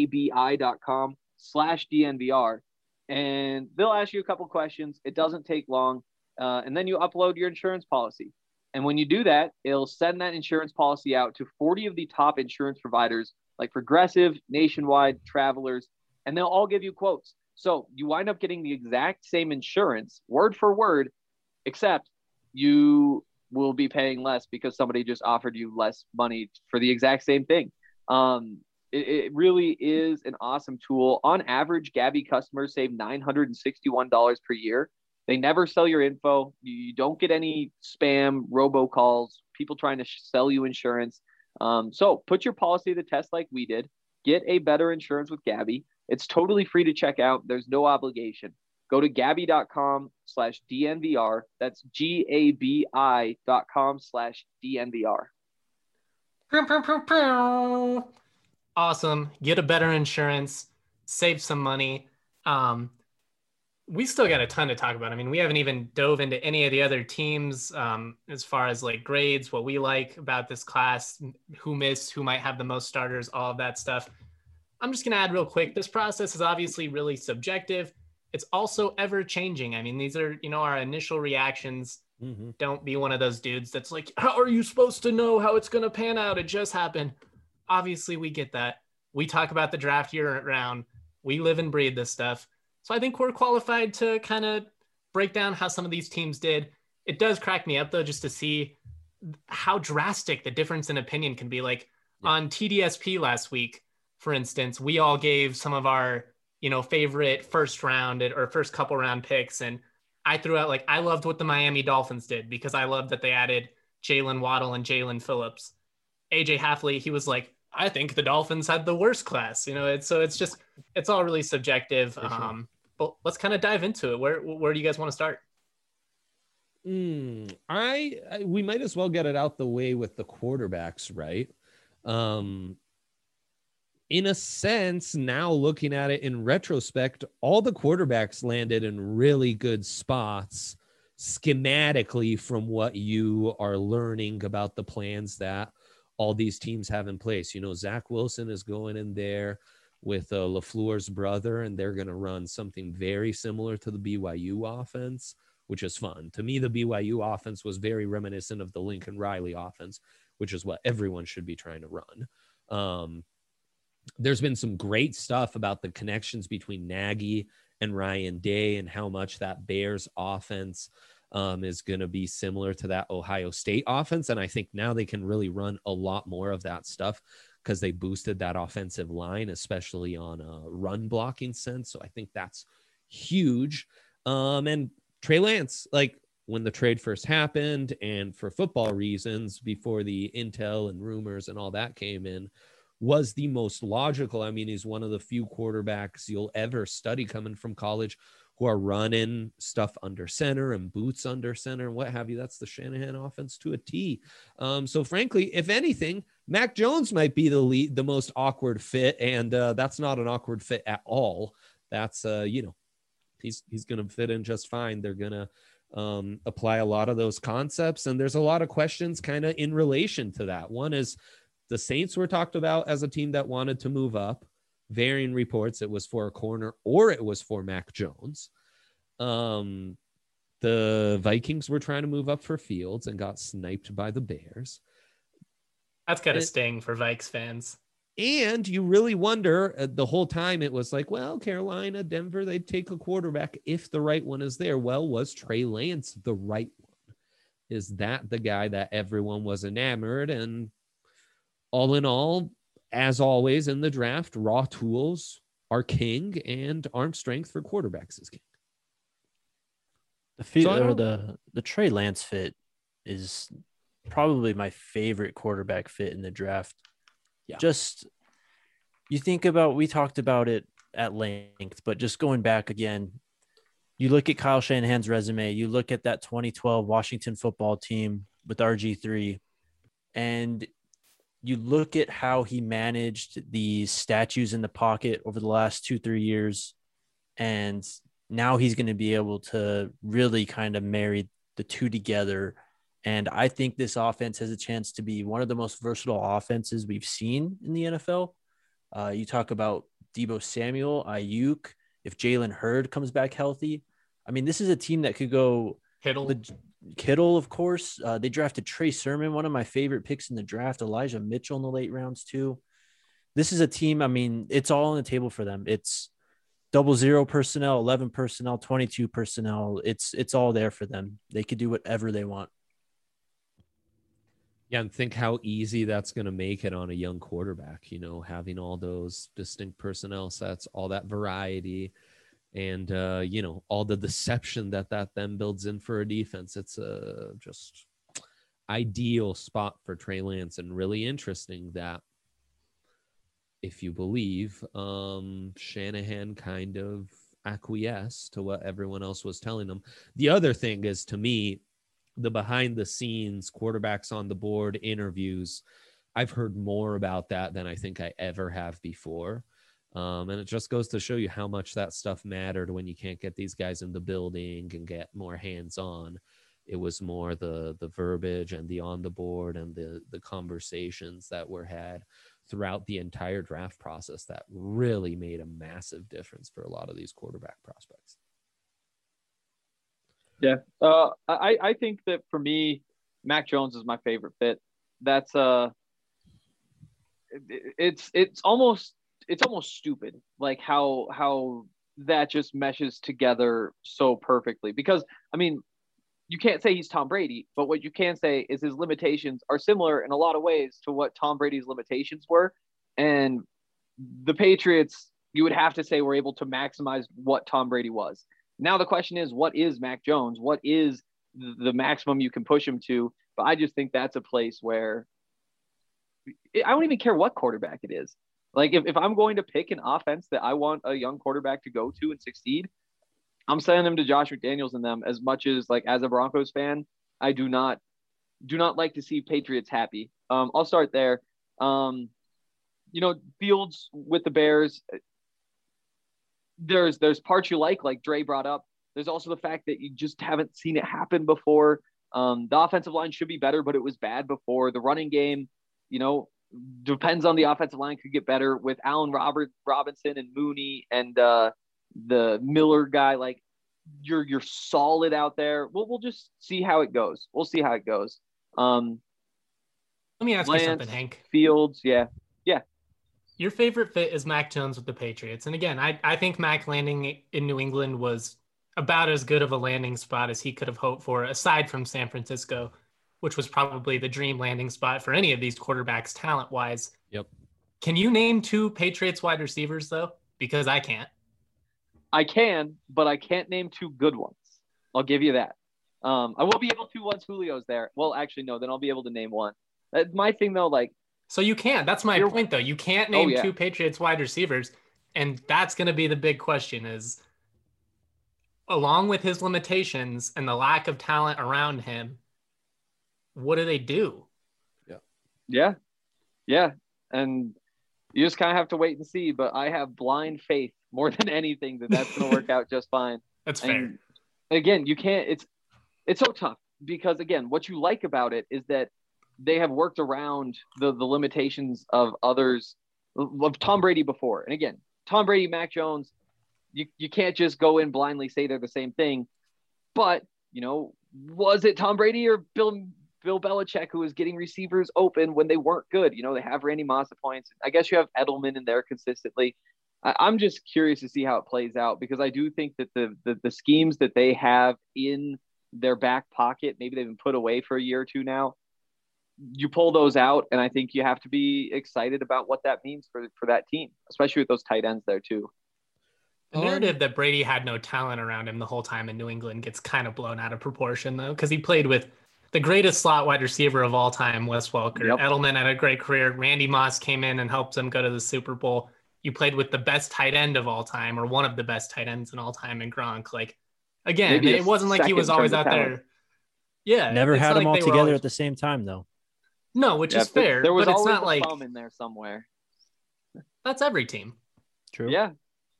Speaker 1: GABI.com/DNVR, and they'll ask you a couple questions. It doesn't take long. And then you upload your insurance policy. And when you do that, it'll send that insurance policy out to 40 of the top insurance providers like Progressive, Nationwide, Travelers, and they'll all give you quotes. So you wind up getting the exact same insurance, word for word, except you will be paying less because somebody just offered you less money for the exact same thing. It really is an awesome tool. On average, Gabi customers save $961 per year. They never sell your info. You don't get any spam, robocalls, people trying to sell you insurance. So put your policy to the test like we did. Get a better insurance with Gabi. It's totally free to check out. There's no obligation. Go to Gabi.com/DNVR. That's GABI.com/DNVR.
Speaker 3: Awesome. Get a better insurance. Save some money. We still got a ton to talk about. I mean, we haven't even dove into any of the other teams as far as like grades, what we like about this class, who missed, who might have the most starters, all of that stuff. I'm just going to add real quick. This process is obviously really subjective. It's also ever changing. I mean, these are, our initial reactions.
Speaker 2: Mm-hmm.
Speaker 3: Don't be one of those dudes that's like, how are you supposed to know how it's going to pan out? It just happened. Obviously, we get that. We talk about the draft year round. We live and breathe this stuff. So I think we're qualified to kind of break down how some of these teams did. It does crack me up, though, just to see how drastic the difference in opinion can be. Like on TDSP last week, for instance, we all gave some of our, favorite first round or first couple round picks. And I threw out, like, I loved what the Miami Dolphins did because I loved that they added Jalen Waddle and Jalen Phillips. AJ Halfley, he was like, I think the Dolphins had the worst class. It's all really subjective.
Speaker 2: Sure.
Speaker 3: But let's kind of dive into it. Where do you guys want to start?
Speaker 2: We might as well get it out the way with the quarterbacks, right? In a sense, now looking at it in retrospect, all the quarterbacks landed in really good spots schematically from what you are learning about the plans that all these teams have in place. Zach Wilson is going in there with LaFleur's brother, and they're going to run something very similar to the BYU offense, which is fun. To me, the BYU offense was very reminiscent of the Lincoln Riley offense, which is what everyone should be trying to run. There's been some great stuff about the connections between Nagy and Ryan Day and how much that Bears offense is going to be similar to that Ohio State offense. And I think now they can really run a lot more of that stuff because they boosted that offensive line, especially on a run blocking sense. So I think that's huge. And Trey Lance, like when the trade first happened and for football reasons before the intel and rumors and all that came in, was the most logical. I mean, he's one of the few quarterbacks you'll ever study coming from college who are running stuff under center and boots under center and what have you. That's the Shanahan offense to a T. So frankly, if anything, Mac Jones might be the most awkward fit. And that's not an awkward fit at all. That's, he's going to fit in just fine. They're going to apply a lot of those concepts. And there's a lot of questions kind of in relation to that. One is, the Saints were talked about as a team that wanted to move up. Varying reports, it was for a corner or it was for Mac Jones. The Vikings were trying to move up for Fields and got sniped by the Bears.
Speaker 3: That's got to sting for Vikes fans.
Speaker 2: And you really wonder the whole time it was like, well, Carolina, Denver, they'd take a quarterback if the right one is there. Well, was Trey Lance the right one? Is that the guy that everyone was enamored? And all in all, as always in the draft, raw tools are king and arm strength for quarterbacks is king.
Speaker 4: The Trey Lance fit is probably my favorite quarterback fit in the draft. Yeah. Just you think about, we talked about it at length, but just going back again, you look at Kyle Shanahan's resume, you look at that 2012 Washington football team with RG3, and you look at how he managed the statues in the pocket over the last 2-3 years. And now he's going to be able to really kind of marry the two together. And I think this offense has a chance to be one of the most versatile offenses we've seen in the NFL. You talk about Deebo Samuel, Ayuk, if Jalen Hurd comes back healthy. I mean, this is a team that could go Kittle, of course. They drafted Trey Sermon, one of my favorite picks in the draft, Elijah Mitchell in the late rounds too. This is a team, I mean, it's all on the table for them. It's 00 personnel, 11 personnel, 22 personnel. It's all there for them. They could do whatever they want.
Speaker 2: Yeah, and think how easy that's going to make it on a young quarterback, having all those distinct personnel sets, all that variety, and all the deception that then builds in for a defense. It's a just ideal spot for Trey Lance, and really interesting that if you believe Shanahan kind of acquiesced to what everyone else was telling him. The other thing is, to me, the behind the scenes quarterbacks on the board interviews, I've heard more about that than I think I ever have before. And it just goes to show you how much that stuff mattered when you can't get these guys in the building and get more hands-on. It was more the verbiage and the on the board and the conversations that were had throughout the entire draft process that really made a massive difference for a lot of these quarterback prospects.
Speaker 1: Yeah. I think that for me, Mac Jones is my favorite fit. That's it's almost stupid, like how that just meshes together so perfectly. Because I mean, you can't say he's Tom Brady, but what you can say is his limitations are similar in a lot of ways to what Tom Brady's limitations were. And the Patriots, you would have to say, were able to maximize what Tom Brady was. Now the question is, what is Mac Jones? What is the maximum you can push him to? But I just think that's a place where I don't even care what quarterback it is. Like if I'm going to pick an offense that I want a young quarterback to go to and succeed, I'm sending them to Josh McDaniels and them. As much as, like, as a Broncos fan, I do not like to see Patriots happy. I'll start there. Fields with the Bears, there's parts you like Dre brought up. There's also the fact that you just haven't seen it happen before. The offensive line should be better, but it was bad before. The running game, depends on the offensive line, could get better with Allen Robinson and Mooney and the Miller guy. Like, you're solid out there. We'll just see how it goes. We'll see how it goes.
Speaker 3: Let me ask
Speaker 1: Lance,
Speaker 3: you something, Hank.
Speaker 1: Fields, yeah.
Speaker 3: Your favorite fit is Mac Jones with the Patriots. And again, I think Mac landing in New England was about as good of a landing spot as he could have hoped for, aside from San Francisco, which was probably the dream landing spot for any of these quarterbacks talent-wise.
Speaker 2: Yep.
Speaker 3: Can you name 2 Patriots wide receivers, though? Because I can't.
Speaker 1: I can, but I can't name 2 good ones. I'll give you that. I will be able to once Julio's there. Well, actually, no, then I'll be able to name one. My thing, though, like,
Speaker 3: so you can't. That's my point, though. You can't name 2 Patriots wide receivers. And that's going to be the big question is, along with his limitations and the lack of talent around him, what do they do?
Speaker 1: Yeah. And you just kind of have to wait and see. But I have blind faith more than anything that's going to work out just fine.
Speaker 3: That's fair.
Speaker 1: And again, you can't. It's so tough because, again, what you like about it is that they have worked around the limitations of others, of Tom Brady before. And again, Tom Brady, Mac Jones, you can't just go in blindly say they're the same thing. But, was it Tom Brady or Bill Belichick who was getting receivers open when they weren't good? They have Randy Moss at points. I guess you have Edelman in there consistently. I'm just curious to see how it plays out because I do think that the schemes that they have in their back pocket, maybe they've been put away for a year or two now, you pull those out, and I think you have to be excited about what that means for that team, especially with those tight ends there too.
Speaker 3: The narrative that Brady had no talent around him the whole time in New England gets kind of blown out of proportion, though, because he played with the greatest slot wide receiver of all time, Wes Welker. Yep. Edelman had a great career. Randy Moss came in and helped him go to the Super Bowl. You played with the best tight end of all time, or one of the best tight ends in all time in Gronk. Like, again, it wasn't like he was always out there. Yeah.
Speaker 4: Never had them all together at the same time, though.
Speaker 3: No, which is fair.
Speaker 1: There was
Speaker 3: but it's
Speaker 1: always
Speaker 3: not like
Speaker 1: thumb in there somewhere.
Speaker 3: That's every team.
Speaker 4: True.
Speaker 1: Yeah.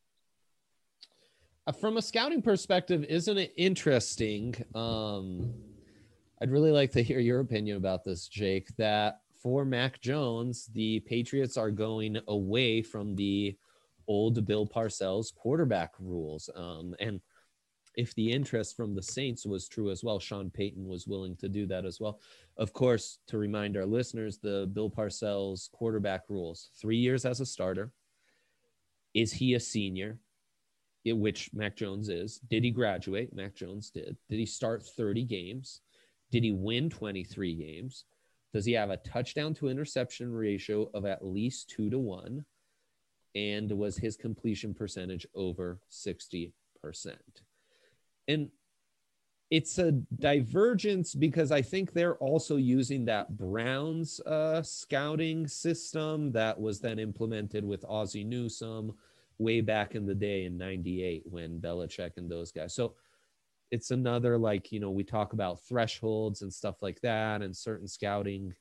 Speaker 2: From a scouting perspective, isn't it interesting? I'd really like to hear your opinion about this, Jake, that for Mac Jones, the Patriots are going away from the old Bill Parcells quarterback rules. And if the interest from the Saints was true as well, Sean Payton was willing to do that as well. Of course, to remind our listeners, the Bill Parcells quarterback rules, 3 years as a starter. Is he a senior? Which Mac Jones is. Did he graduate? Mac Jones did. Did he start 30 games? Did he win 23 games? Does he have a touchdown to interception ratio of at least 2-1? And was his completion percentage over 60%? And it's a divergence because I think they're also using that Browns scouting system that was then implemented with Ozzie Newsome way back in the day in 98 when Belichick and those guys. So it's another, like, we talk about thresholds and stuff like that and certain scouting,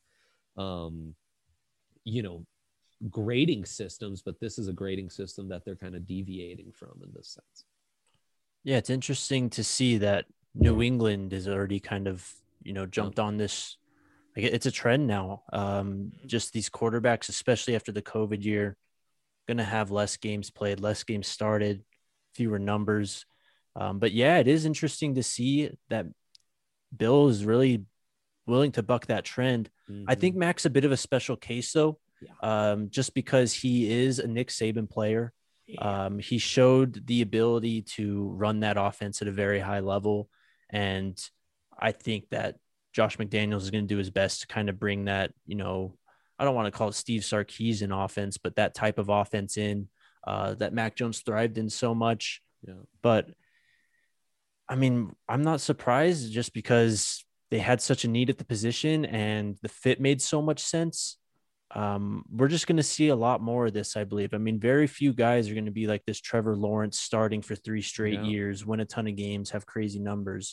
Speaker 2: grading systems, but this is a grading system that they're kind of deviating from in this sense.
Speaker 4: Yeah, it's interesting to see that New England is already kind of, jumped on this. Like, it's a trend now. Just these quarterbacks, especially after the COVID year, going to have less games played, less games started, fewer numbers. But yeah, it is interesting to see that Bill is really willing to buck that trend. I think Mac's a bit of a special case though, just because he is a Nick Saban player. He showed the ability to run that offense at a very high level. And I think that Josh McDaniels is going to do his best to kind of bring that, I don't want to call it Steve Sarkisian offense, but that type of offense in that Mac Jones thrived in so much.
Speaker 2: Yeah.
Speaker 4: But I mean, I'm not surprised just because they had such a need at the position and the fit made so much sense. We're just going to see a lot more of this, I believe. I mean, very few guys are going to be like this Trevor Lawrence starting for 3 straight years, win a ton of games, have crazy numbers.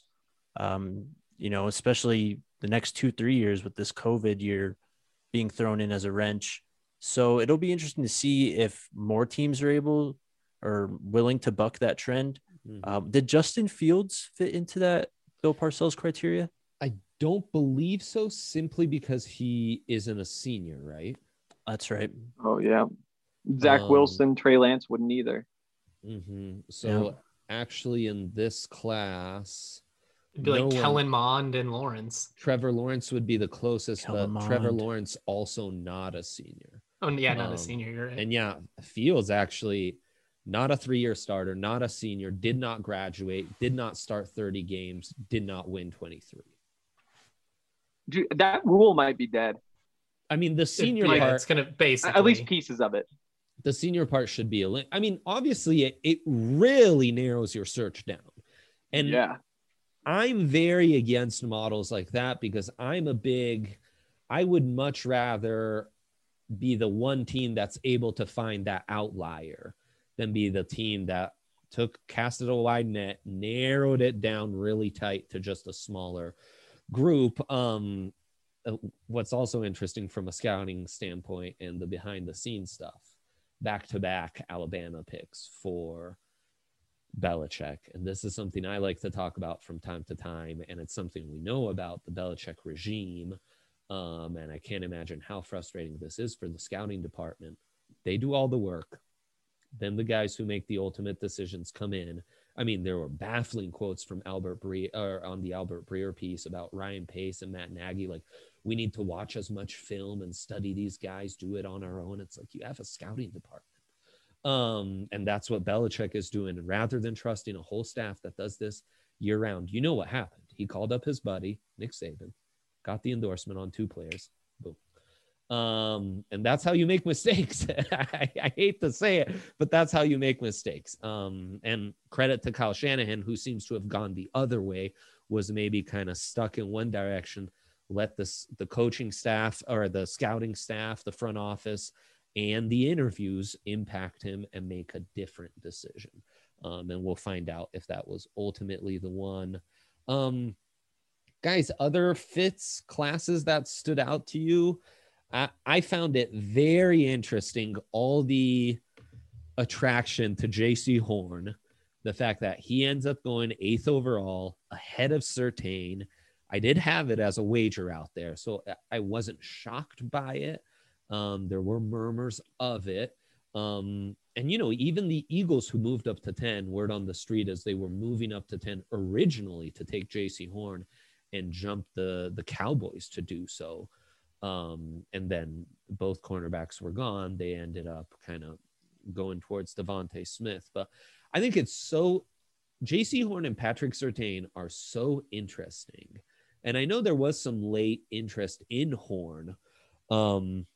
Speaker 4: Especially the next 2-3 years with this COVID year being thrown in as a wrench. So it'll be interesting to see if more teams are able or willing to buck that trend. Did Justin Fields fit into that Bill Parcells criteria?
Speaker 2: I don't believe so, simply because he isn't a senior, right?
Speaker 4: That's right.
Speaker 1: Oh, yeah. Zach Wilson, Trey Lance wouldn't either.
Speaker 2: So actually in this class,
Speaker 3: it'd be like Kellen Mond and Lawrence.
Speaker 2: Trevor Lawrence would be the closest, but Trevor Lawrence also not a senior.
Speaker 3: Oh, yeah, not a senior. You're right.
Speaker 2: And Fields actually not a 3-year starter, not a senior, did not graduate, did not start 30 games, did not win 23.
Speaker 1: Dude, that rule might be dead.
Speaker 2: I mean, the senior part,
Speaker 3: it's going to basically,
Speaker 1: at least pieces of it.
Speaker 2: The senior part should be I mean, obviously it really narrows your search down. And I'm very against models like that because I would much rather be the one team that's able to find that outlier than be the team that casted a wide net, narrowed it down really tight to just a smaller group. What's also interesting from a scouting standpoint and the behind the scenes stuff, back-to-back Alabama picks for Belichick. And this is something I like to talk about from time to time. And it's something we know about the Belichick regime. And I can't imagine how frustrating this is for the scouting department. They do all the work. Then the guys who make the ultimate decisions come in. I mean, there were baffling quotes from Albert Breer on the Albert Breer piece about Ryan Pace and Matt Nagy. Like, we need to watch as much film and study these guys, do it on our own. It's like, you have a scouting department. And that's what Belichick is doing. And rather than trusting a whole staff that does this year round, you know what happened? He called up his buddy, Nick Saban, got the endorsement on 2 players. Boom. And that's how you make mistakes. I hate to say it, but that's how you make mistakes. And credit to Kyle Shanahan, who seems to have gone the other way, was maybe kind of stuck in one direction, let the coaching staff or the scouting staff, the front office, and the interviews impact him and make a different decision. And we'll find out if that was ultimately the one. Guys, other fits classes that stood out to you? I found it very interesting, all the attraction to JC Horn, the fact that he ends up going 8th overall ahead of Surtain. I did have it as a wager out there, so I wasn't shocked by it. There were murmurs of it. And, even the Eagles, who moved up to 10, word on the street as they were moving up to 10 originally to take JC Horn and jump the Cowboys to do so. And then both cornerbacks were gone. They ended up kind of going towards Devontae Smith. But I think it's so JC Horn and Patrick Surtain are so interesting. And I know there was some late interest in Horn, kind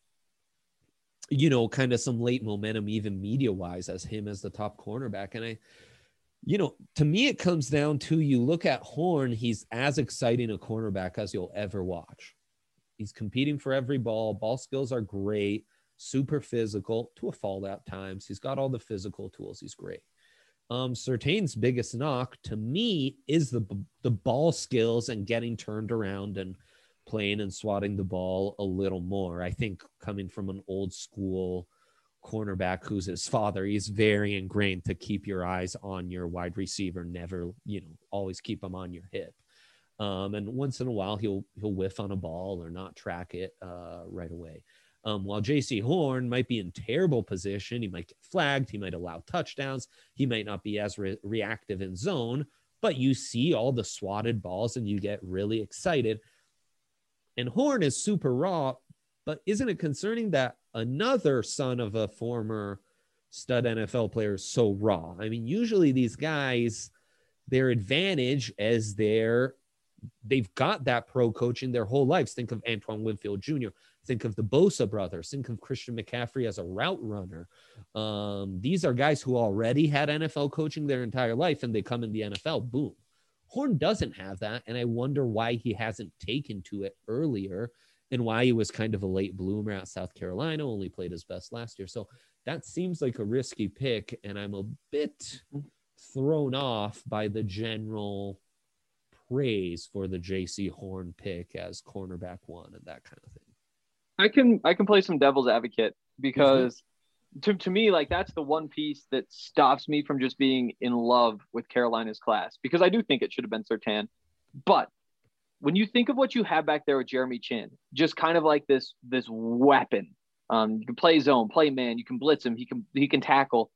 Speaker 2: of some late momentum, even media wise, as him as the top cornerback. And to me, it comes down to, you look at Horn, he's as exciting a cornerback as you'll ever watch. He's competing for every ball. Ball skills are great, super physical to a fault at times. He's got all the physical tools. He's great. Surtain's biggest knock to me is the ball skills and getting turned around and playing and swatting the ball a little more. I think coming from an old school cornerback who's his father, he's very ingrained to keep your eyes on your wide receiver, never, always keep them on your hip. And once in a while, he'll whiff on a ball or not track it right away. While JC Horn might be in terrible position, he might get flagged, he might allow touchdowns, he might not be as reactive in zone, but you see all the swatted balls and you get really excited. And Horn is super raw, but isn't it concerning that another son of a former stud NFL player is so raw? I mean, usually these guys, their advantage as they've got that pro coaching their whole lives. Think of Antoine Winfield Jr. Think of the Bosa brothers. Think of Christian McCaffrey as a route runner. These are guys who already had NFL coaching their entire life, and they come in the NFL, boom. Horn doesn't have that, and I wonder why he hasn't taken to it earlier and why he was kind of a late bloomer at South Carolina, only played his best last year. So that seems like a risky pick, and I'm a bit thrown off by the general praise for the JC Horn pick as cornerback one and that kind of thing.
Speaker 1: I can play some devil's advocate because to me, like, that's the one piece that stops me from just being in love with Carolina's class, because I do think it should have been Surtain. But when you think of what you have back there with Jeremy Chin, just kind of like this weapon, you can play zone, play man, you can blitz him, he can tackle.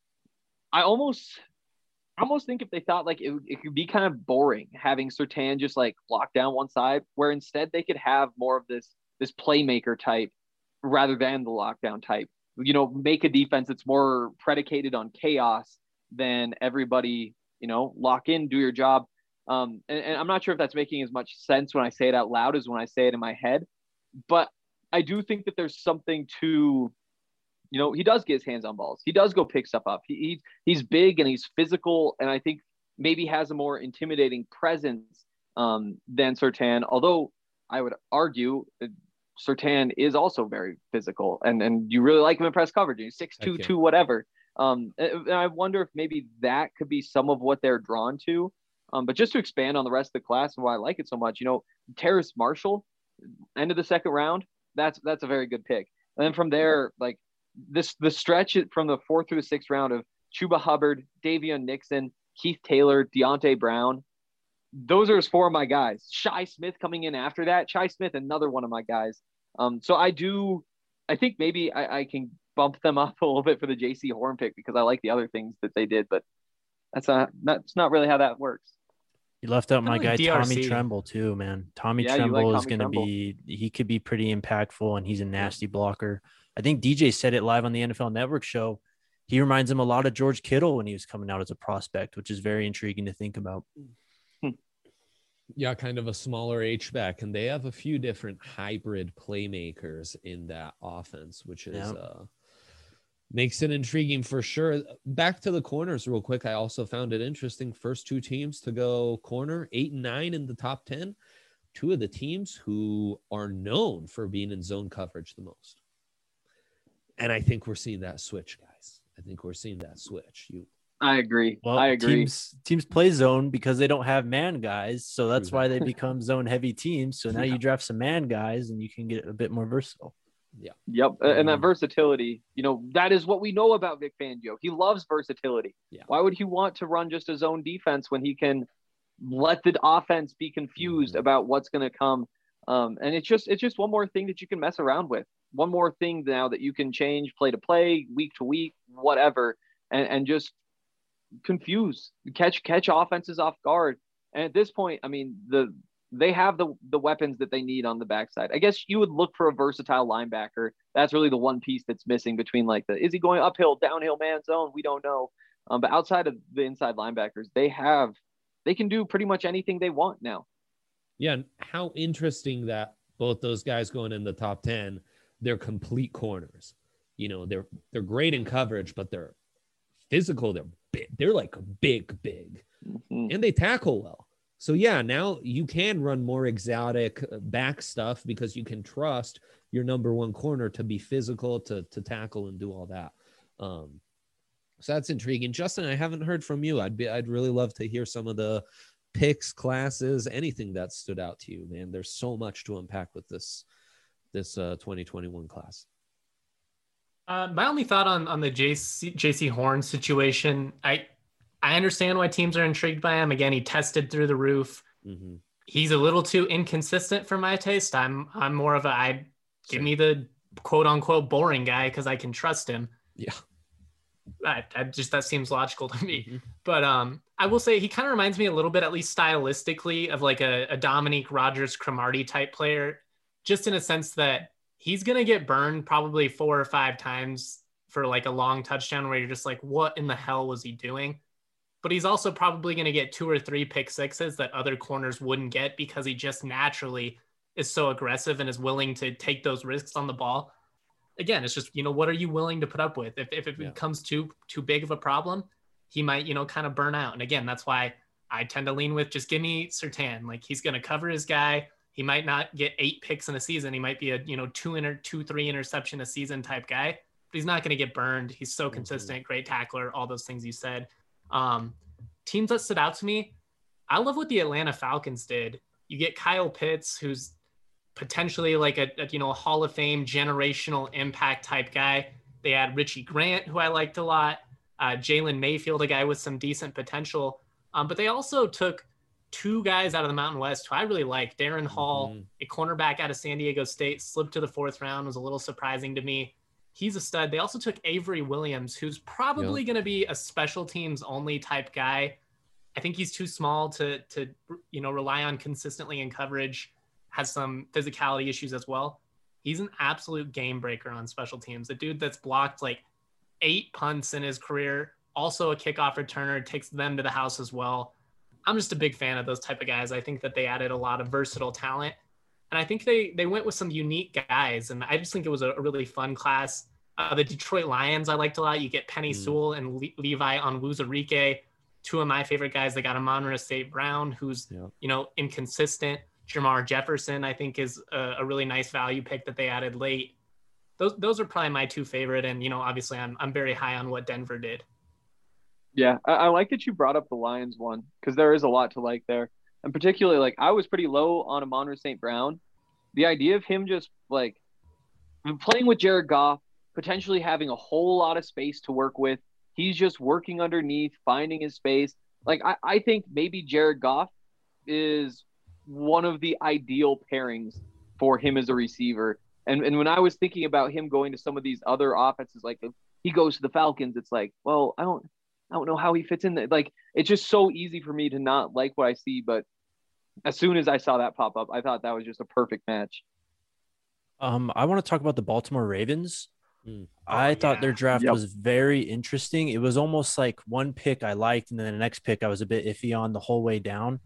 Speaker 1: I almost think if they thought like it could be kind of boring having Surtain just like lock down one side, where instead they could have more of this playmaker type rather than the lockdown type. You know, make a defense that's more predicated on chaos than everybody, you know, lock in, do your job. And I'm not sure if that's making as much sense when I say it out loud as when I say it in my head, but I do think that there's something to, you know, he does get his hands on balls. He does go pick stuff up. He's big and he's physical, and I think maybe has a more intimidating presence than Surtain, although I would argue Surtain is also very physical, and you really like him in press coverage. He's 6'2", whatever. And I wonder if maybe that could be some of what they're drawn to. But just to expand on the rest of the class and why I like it so much, you know, Terrace Marshall, end of the second round, that's a very good pick. And then from there, like the stretch from the 4th through the 6th round of Chuba Hubbard, Davion Nixon, Keith Taylor, Deontay Brown, those are 4 of my guys. Shi Smith coming in after that. Shi Smith, another one of my guys. So I think maybe I can bump them up a little bit for the JC Horn pick because I like the other things that they did, but that's not really how that works.
Speaker 4: You left out my guy,
Speaker 3: DRC.
Speaker 4: Tommy Tremble, too, man. Tommy Tremble is going to be – he could be pretty impactful, and he's a nasty blocker. I think DJ said it live on the NFL Network show. He reminds him a lot of George Kittle when he was coming out as a prospect, which is very intriguing to think about.
Speaker 2: Yeah, kind of a smaller H-back, and they have a few different hybrid playmakers in that offense, which is makes it intriguing for sure. Back to the corners real quick. I also found it interesting. First 2 teams to go corner, 8 and 9 in the top 10. 2 of the teams who are known for being in zone coverage the most. And I think we're seeing that switch, guys. I think we're seeing that switch.
Speaker 1: I agree.
Speaker 4: Well,
Speaker 1: I agree.
Speaker 4: Teams play zone because they don't have man guys. So that's why they become zone heavy teams. So now you draft some man guys and you can get a bit more versatile.
Speaker 2: Yeah.
Speaker 1: Yep. And that versatility, you know, that is what we know about Vic Fangio. He loves versatility.
Speaker 2: Yeah.
Speaker 1: Why would he want to run just a zone defense when he can let the offense be confused about what's going to come? And it's just one more thing that you can mess around with. One more thing now that you can change play to play, week to week, whatever, and just confuse, catch offenses off guard. And at this point, I mean, they have the weapons that they need on the backside. I guess you would look for a versatile linebacker. That's really the one piece that's missing between is he going uphill, downhill, man zone? We don't know. But outside of the inside linebackers, they can do pretty much anything they want now.
Speaker 2: Yeah. And how interesting that both those guys going in the top 10, they're complete corners. You know, they're great in coverage, but they're physical. They're big. They're like big, and they tackle well. So yeah, now you can run more exotic back stuff because you can trust your number 1 corner to be physical, to tackle and do all that. So that's intriguing. Justin, I haven't heard from you. I'd really love to hear some of the picks, classes, anything that stood out to you, man. There's so much to unpack with this 2021 class.
Speaker 3: My only thought on the JC Horn situation, I understand why teams are intrigued by him. Again, he tested through the roof. He's a little too inconsistent for my taste. I'm more of give me the quote unquote boring guy because I can trust him.
Speaker 2: Yeah.
Speaker 3: That seems logical to me.
Speaker 2: Mm-hmm.
Speaker 3: But I will say he kind of reminds me a little bit, at least stylistically, of like a Dominique Rodgers-Cromartie type player, just in a sense that he's going to get burned probably 4 or 5 times for like a long touchdown where you're just like, what in the hell was he doing? But he's also probably going to get 2 or 3 pick sixes that other corners wouldn't get because he just naturally is so aggressive and is willing to take those risks on the ball. Again, it's just, what are you willing to put up with? If it becomes too big of a problem, he might, kind of burn out. And again, that's why I tend to lean with just give me Surtain. Like he's going to cover his guy. He might not get 8 picks in a season. He might be a, 2-3 interception a season type guy, but he's not going to get burned. He's so consistent, great tackler, all those things you said. Teams that stood out to me, I love what the Atlanta Falcons did. You get Kyle Pitts, who's potentially like a Hall of Fame generational impact type guy. They had Richie Grant, who I liked a lot. Jalen Mayfield, a guy with some decent potential. But they also took 2 guys out of the Mountain West who I really like. Darren Hall, a cornerback out of San Diego State, slipped to the 4th round, was a little surprising to me. He's a stud. They also took Avery Williams, who's probably going to be a special teams only type guy. I think he's too small to rely on consistently in coverage. Has some physicality issues as well. He's an absolute game breaker on special teams. A dude that's blocked like 8 punts in his career, also a kickoff returner, takes them to the house as well. I'm just a big fan of those type of guys. I think that they added a lot of versatile talent. And I think they went with some unique guys. And I just think it was a really fun class. The Detroit Lions I liked a lot. You get Penny Sewell and Levi Onwuzurike, 2 of my favorite guys. They got Amon-Ra St. Brown, who's, inconsistent. Jamar Jefferson, I think, is a really nice value pick that they added late. Those are probably my 2 favorite. And, obviously I'm very high on what Denver did.
Speaker 1: Yeah, I like that you brought up the Lions one because there is a lot to like there. And particularly, like, I was pretty low on Amon-Ra St. Brown. The idea of him just, like, playing with Jared Goff, potentially having a whole lot of space to work with. He's just working underneath, finding his space. Like, I think maybe Jared Goff is one of the ideal pairings for him as a receiver. And when I was thinking about him going to some of these other offenses, like if he goes to the Falcons, it's like, well, I don't know how he fits in there. Like, it's just so easy for me to not like what I see. But as soon as I saw that pop up, I thought that was just a perfect match.
Speaker 4: I want to talk about the Baltimore Ravens. I thought their draft was very interesting. It was almost like one pick I liked, and then the next pick I was a bit iffy on the whole way down.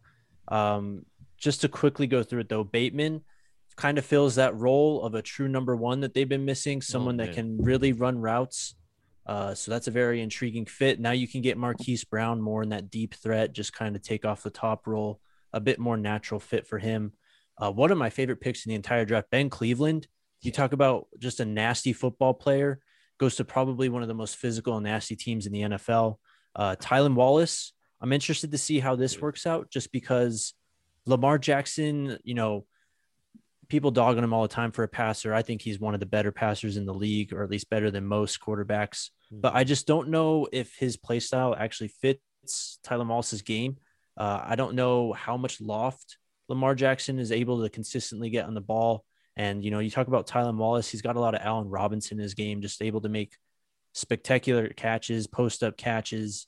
Speaker 4: Just to quickly go through it, though, Bateman kind of fills that role of a true number 1 that they've been missing, someone that can really run routes. So that's a very intriguing fit. Now you can get Marquise Brown more in that deep threat, just kind of take off the top role, a bit more natural fit for him. One of my favorite picks in the entire draft, Ben Cleveland. You talk about just a nasty football player, goes to probably one of the most physical and nasty teams in the NFL. Tylan Wallace, I'm interested to see how this works out just because Lamar Jackson, people dogging him all the time for a passer. I think he's one of the better passers in the league, or at least better than most quarterbacks. But I just don't know if his play style actually fits Tylan Wallace's game. I don't know how much loft Lamar Jackson is able to consistently get on the ball. And, you talk about Tylan Wallace, he's got a lot of Allen Robinson in his game, just able to make spectacular catches, post-up catches.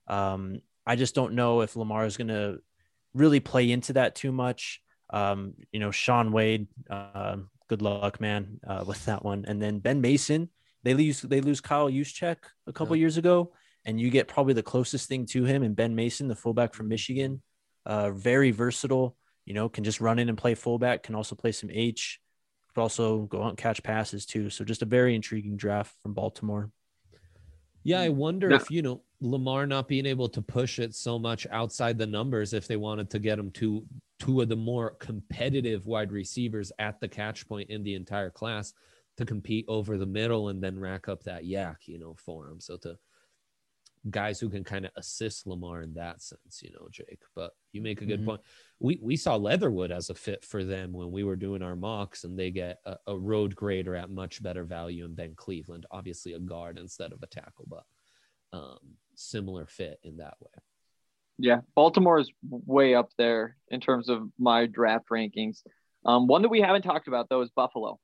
Speaker 4: I just don't know if Lamar is going to really play into that too much. Sean Wade, good luck, man, with that one. And then Ben Mason, they lose Kyle Juszczyk a couple years ago, and you get probably the closest thing to him in Ben Mason, the fullback from Michigan. Very versatile, can just run in and play fullback, can also play some H, but also go out and catch passes too. So just a very intriguing draft from Baltimore.
Speaker 2: Yeah, I wonder if, Lamar not being able to push it so much outside the numbers, if they wanted to get him to 2 of the more competitive wide receivers at the catch point in the entire class to compete over the middle and then rack up that yak, for him. So to guys who can kind of assist Lamar in that sense, Jake. But you make a good point. We saw Leatherwood as a fit for them when we were doing our mocks, and they get a road grader at much better value in Ben Cleveland, obviously a guard instead of a tackle, but similar fit in that way.
Speaker 1: Yeah, Baltimore is way up there in terms of my draft rankings. One that we haven't talked about, though, is Buffalo.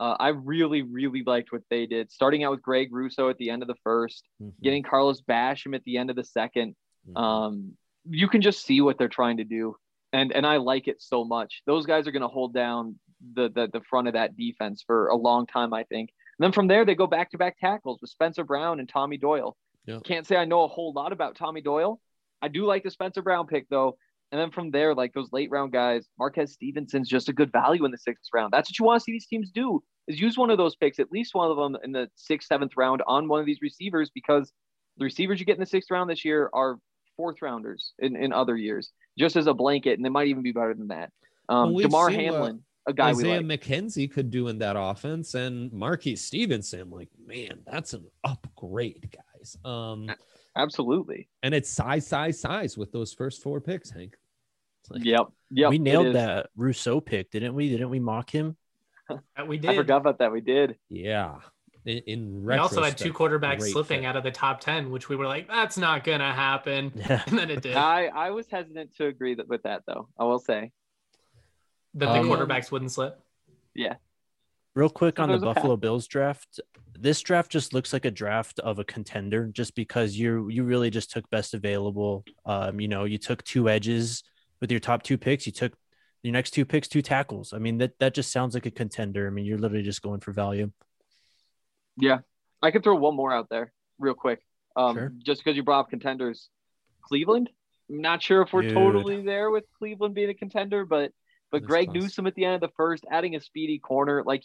Speaker 1: I really, really liked what they did. Starting out with Greg Russo at the end of the first, getting Carlos Basham at the end of the second. You can just see what they're trying to do. And I like it so much. Those guys are going to hold down the front of that defense for a long time, I think. And then from there, they go back-to-back tackles with Spencer Brown and Tommy Doyle. Yep. Can't say I know a whole lot about Tommy Doyle. I do like the Spencer Brown pick, though. And then from there, like those late round guys, Marquez Stevenson's just a good value in the 6th round. That's what you want to see these teams do, is use one of those picks, at least one of them in the 6th, 7th round on one of these receivers, because the receivers you get in the 6th round this year are 4th rounders in other years, just as a blanket, and they might even be better than that. Damar Hamlin, a guy
Speaker 2: Isaiah
Speaker 1: we like.
Speaker 2: McKenzie could do in that offense, and Marquez Stevenson, like, man, that's an upgrade, guys.
Speaker 1: Absolutely.
Speaker 2: And it's size with those first 4 picks, Hank.
Speaker 1: Like, yep.
Speaker 4: We nailed that Rousseau pick, didn't we? Didn't we mock him?
Speaker 3: We did.
Speaker 1: I forgot about that. We did.
Speaker 2: Yeah. In
Speaker 3: we also had 2 quarterbacks slipping
Speaker 2: fit
Speaker 3: out of the top 10, which we were like, that's not gonna happen.
Speaker 4: Yeah.
Speaker 3: And then it did.
Speaker 1: I was hesitant to agree with that, though. I will say
Speaker 3: that the quarterbacks wouldn't slip.
Speaker 1: Yeah.
Speaker 4: Real quick on the Buffalo Bills draft. This draft just looks like a draft of a contender, just because you really just took best available. You took 2 edges with your top 2 picks. You took your next 2 picks, 2 tackles. I mean, that just sounds like a contender. I mean, you're literally just going for value.
Speaker 1: Yeah. I could throw one more out there real quick.
Speaker 4: Sure.
Speaker 1: Just because you brought up contenders. Cleveland. I'm not sure if we're totally there with Cleveland being a contender, but Greg Newsome at the end of the first, adding a speedy corner, like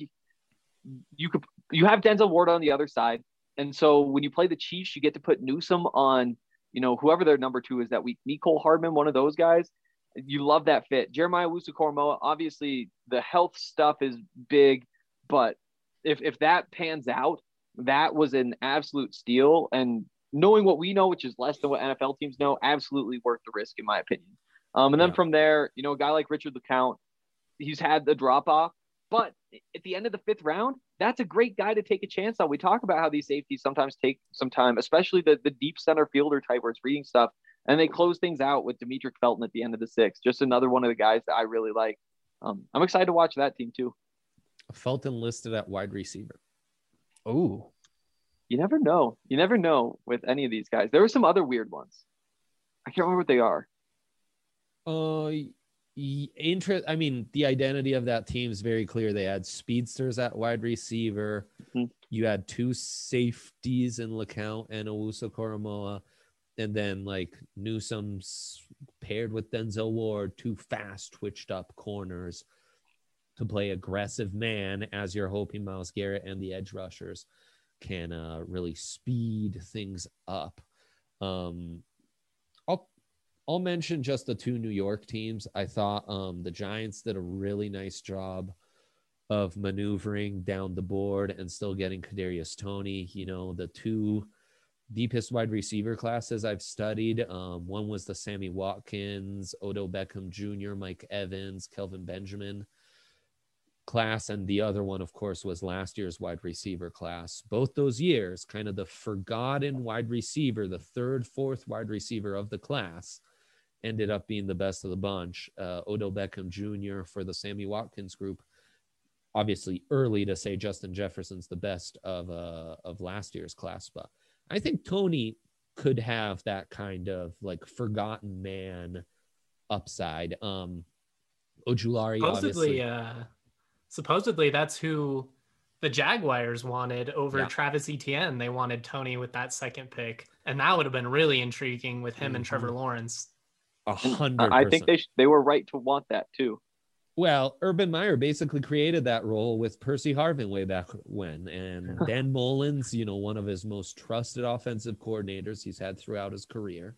Speaker 1: you have Denzel Ward on the other side. And so when you play the Chiefs, you get to put Newsome on, whoever their number 2 is that week. Mecole Hardman, one of those guys. You love that fit. Jeremiah Owusu-Koramoah, obviously the health stuff is big, but if that pans out, that was an absolute steal. And knowing what we know, which is less than what NFL teams know, absolutely worth the risk, in my opinion. And then from there, a guy like Richard LeCounte, he's had the drop off, but at the end of the 5th round, that's a great guy to take a chance on. We talk about how these safeties sometimes take some time, especially the deep center fielder type where it's reading stuff. And they close things out with Demetric Felton at the end of the 6th. Just another one of the guys that I really like. I'm excited to watch that team too.
Speaker 2: Felton listed at wide receiver.
Speaker 4: Oh,
Speaker 1: you never know. You never know with any of these guys. There were some other weird ones. I can't remember what they are.
Speaker 2: I mean, the identity of that team is very clear. They had speedsters at wide receiver. Mm-hmm. You had 2 safeties in LeCounte and Owusu-Koramoah. And then like Newsome's paired with Denzel Ward, 2 fast twitched up corners to play aggressive man, as you're hoping Myles Garrett and the edge rushers can really speed things up. I'll mention just the 2 New York teams. I thought the Giants did a really nice job of maneuvering down the board and still getting Kadarius Toney. The 2 deepest wide receiver classes I've studied. One was the Sammy Watkins, Odell Beckham Jr., Mike Evans, Kelvin Benjamin class. And the other one, of course, was last year's wide receiver class. Both those years, kind of the forgotten wide receiver, the 3rd, 4th wide receiver of the class, ended up being the best of the bunch. Odell Beckham Jr. for the Sammy Watkins group. Obviously early to say Justin Jefferson's the best of last year's class, but I think Toney could have that kind of like forgotten man upside. Ojulari,
Speaker 3: supposedly that's who the Jaguars wanted over Travis Etienne. They wanted Toney with that 2nd pick, and that would have been really intriguing with him and Trevor Lawrence.
Speaker 2: 100%.
Speaker 1: I think they were right to want that too.
Speaker 2: Well, Urban Meyer basically created that role with Percy Harvin way back when. And Dan Mullins, one of his most trusted offensive coordinators he's had throughout his career.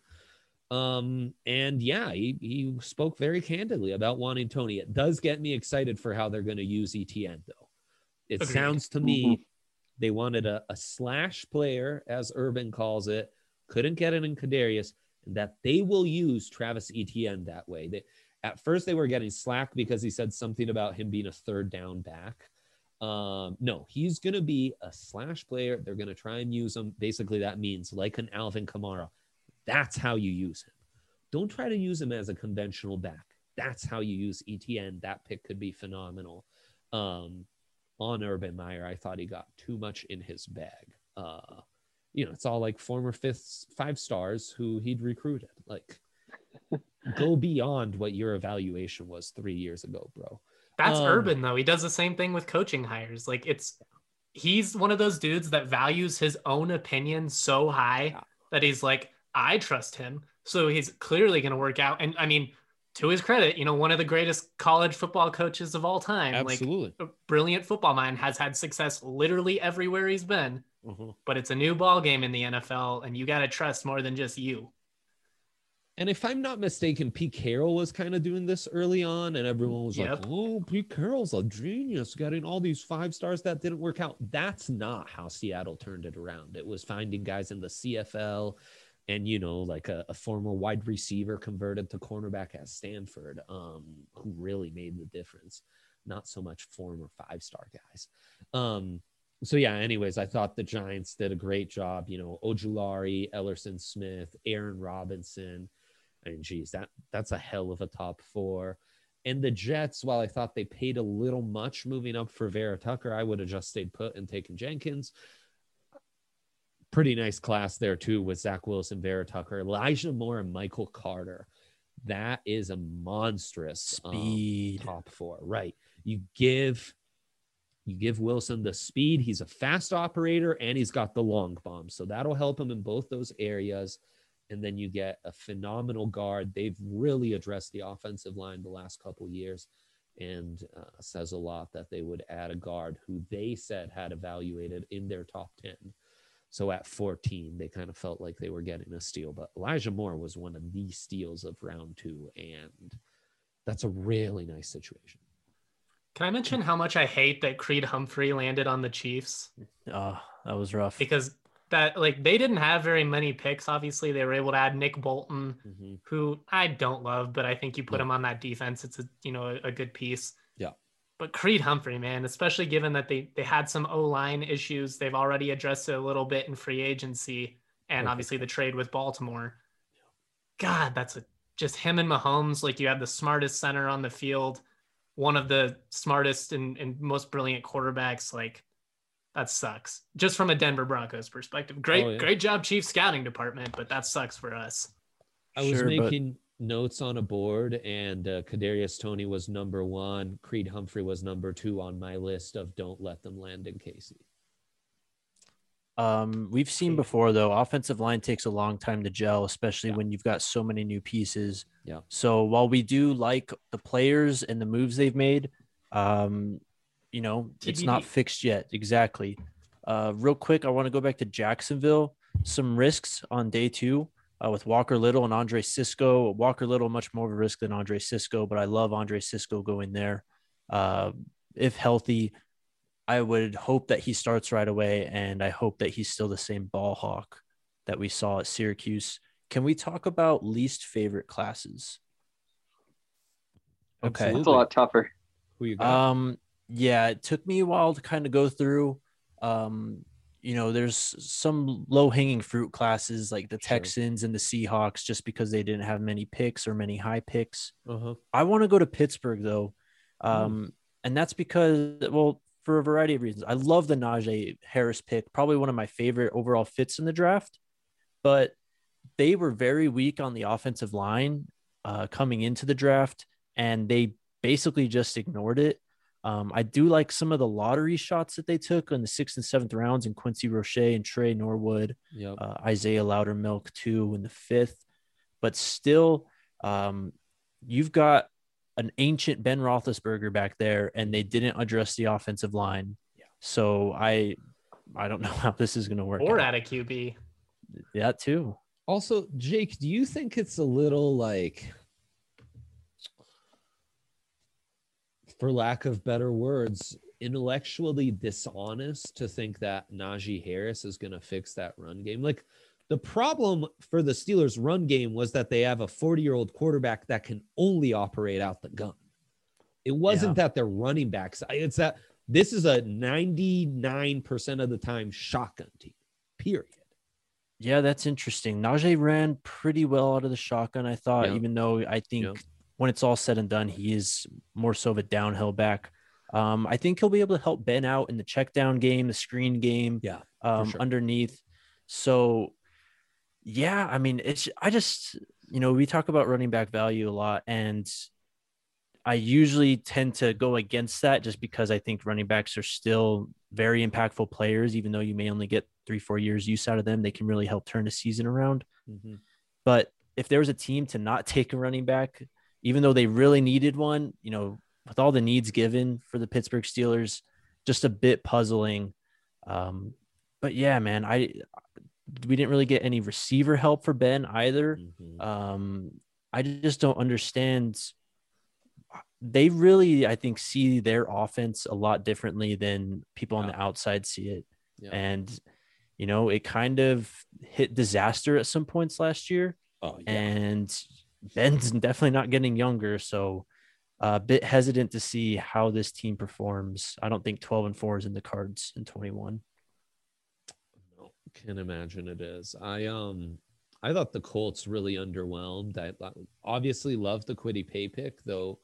Speaker 2: He spoke very candidly about wanting Toney. It does get me excited for how they're going to use ETN, though. It
Speaker 3: Agreed.
Speaker 2: Sounds to me they wanted a slash player, as Urban calls it, couldn't get it in Kadarius, and that they will use Travis Etienne that way. At first, they were getting slack because he said something about him being a 3rd down back. No, he's going to be a slash player. They're going to try and use him. Basically, that means like an Alvin Kamara. That's how you use him. Don't try to use him as a conventional back. That's how you use ETN. That pick could be phenomenal. on Urban Meyer. I thought he got too much in his bag. It's all like former 5 stars who he'd recruited. Like, go beyond what your evaluation was 3 years ago, bro.
Speaker 3: That's Urban though. He does the same thing with coaching hires. Like, he's one of those dudes that values his own opinion so high that he's like, I trust him. So he's clearly going to work out. And I mean, to his credit, one of the greatest college football coaches of all time.
Speaker 2: Absolutely.
Speaker 3: Like, a brilliant football mind, has had success literally everywhere he's been.
Speaker 2: Mm-hmm.
Speaker 3: But it's a new ball game in the NFL, and you got to trust more than just you.
Speaker 2: And if I'm not mistaken, Pete Carroll was kind of doing this early on, and everyone was like, oh, Pete Carroll's a genius, getting all these 5 stars that didn't work out. That's not how Seattle turned it around. It was finding guys in the CFL and, like a former wide receiver converted to cornerback at Stanford, who really made the difference. Not so much former 5-star guys. So yeah, anyways, I thought the Giants did a great job. Ojulari, Ellerson Smith, Aaron Robinson. I mean, geez, that's a hell of a top 4. And the Jets, while I thought they paid a little much moving up for Vera Tucker, I would have just stayed put and taken Jenkins. Pretty nice class there too with Zach Wilson, Vera Tucker, Elijah Moore, and Michael Carter. That is a monstrous
Speaker 4: speed
Speaker 2: top 4, right? You give Wilson the speed. He's a fast operator, and he's got the long bomb. So that'll help him in both those areas. And then you get a phenomenal guard. They've really addressed the offensive line the last couple of years, and says a lot that they would add a guard who they said had evaluated in their top 10. So at 14, they kind of felt like they were getting a steal. But Elijah Moore was one of the steals of round 2, and that's a really nice situation.
Speaker 3: Can I mention how much I hate that Creed Humphrey landed on the Chiefs?
Speaker 4: Oh, that was rough.
Speaker 3: Because they didn't have very many picks. Obviously, they were able to add Nick Bolton, who I don't love, but I think you put him on that defense, it's a good piece.
Speaker 2: Yeah.
Speaker 3: But Creed Humphrey, man, especially given that they had some O-line issues, they've already addressed it a little bit in free agency, and obviously the trade with Baltimore. God, that's just him and Mahomes. Like, you have the smartest center on the field, one of the smartest and most brilliant quarterbacks. Like, that sucks. Just from a Denver Broncos perspective. Great job, Chiefs scouting department, but that sucks for us.
Speaker 2: I was making notes on a board, and Kadarius Toney was number 1. Creed Humphrey was number 2 on my list of don't let them land in KC.
Speaker 4: We've seen before, though, offensive line takes a long time to gel, especially when you've got so many new pieces.
Speaker 2: Yeah.
Speaker 4: So while we do like the players and the moves they've made, it's not fixed yet. Exactly. Real quick, I want to go back to Jacksonville. Some risks on day 2 with Walker Little and Andre Cisco. Walker Little, much more of a risk than Andre Cisco, but I love Andre Cisco going there. If healthy, I would hope that he starts right away, and I hope that he's still the same ball hawk that we saw at Syracuse. Can we talk about least favorite classes? Okay.
Speaker 1: It's a lot tougher.
Speaker 2: Who you got?
Speaker 4: Yeah, it took me a while to kind of go through. There's some low-hanging fruit classes like the Texans and the Seahawks, just because they didn't have many picks or many high picks. I want to go to Pittsburgh, though. And that's because, for a variety of reasons. I love the Najee Harris pick, probably one of my favorite overall fits in the draft, but they were very weak on the offensive line coming into the draft, and they basically just ignored it. I do like some of the lottery shots that they took in the 6th and 7th rounds, in Quincy Roche and Trey Norwood, Isaiah Loudermilk too in the 5th, but still you've got an ancient Ben Roethlisberger back there, and they didn't address the offensive line. Yeah. So I don't know how this is going to work.
Speaker 3: Or out of QB.
Speaker 4: Yeah, too.
Speaker 2: Also, Jake, do you think it's a little like, for lack of better words, intellectually dishonest to think that Najee Harris is going to fix that run game? Like, the problem for the Steelers' run game was that they have a 40-year-old quarterback that can only operate out the gun. It wasn't that they're running backs. It's that this is a 99% of the time shotgun team, period.
Speaker 4: Yeah, that's interesting. Najee ran pretty well out of the shotgun, I thought, even though I think when it's all said and done, he is more so of a downhill back. I think he'll be able to help Ben out in the check down game, the screen game,
Speaker 2: Yeah, for sure.
Speaker 4: underneath. So, yeah, I mean, I just, we talk about running back value a lot, and I usually tend to go against that just because I think running backs are still very impactful players, even though you may only get 3-4 years use out of them. They can really help turn a season around.
Speaker 2: Mm-hmm.
Speaker 4: But if there was a team to not take a running back, even though they really needed one, with all the needs given for the Pittsburgh Steelers, just a bit puzzling. But yeah, man, we didn't really get any receiver help for Ben either.
Speaker 2: Mm-hmm.
Speaker 4: I just don't understand. They really, I think, see their offense a lot differently than people on the outside see it.
Speaker 2: Yeah.
Speaker 4: And, it kind of hit disaster at some points last year.
Speaker 2: Oh, yeah.
Speaker 4: And Ben's definitely not getting younger. So a bit hesitant to see how this team performs. I don't think 12-4 is in the cards in 21.
Speaker 2: No, can't imagine it is. I thought the Colts really underwhelmed. I obviously love the Kwity Paye pick, though.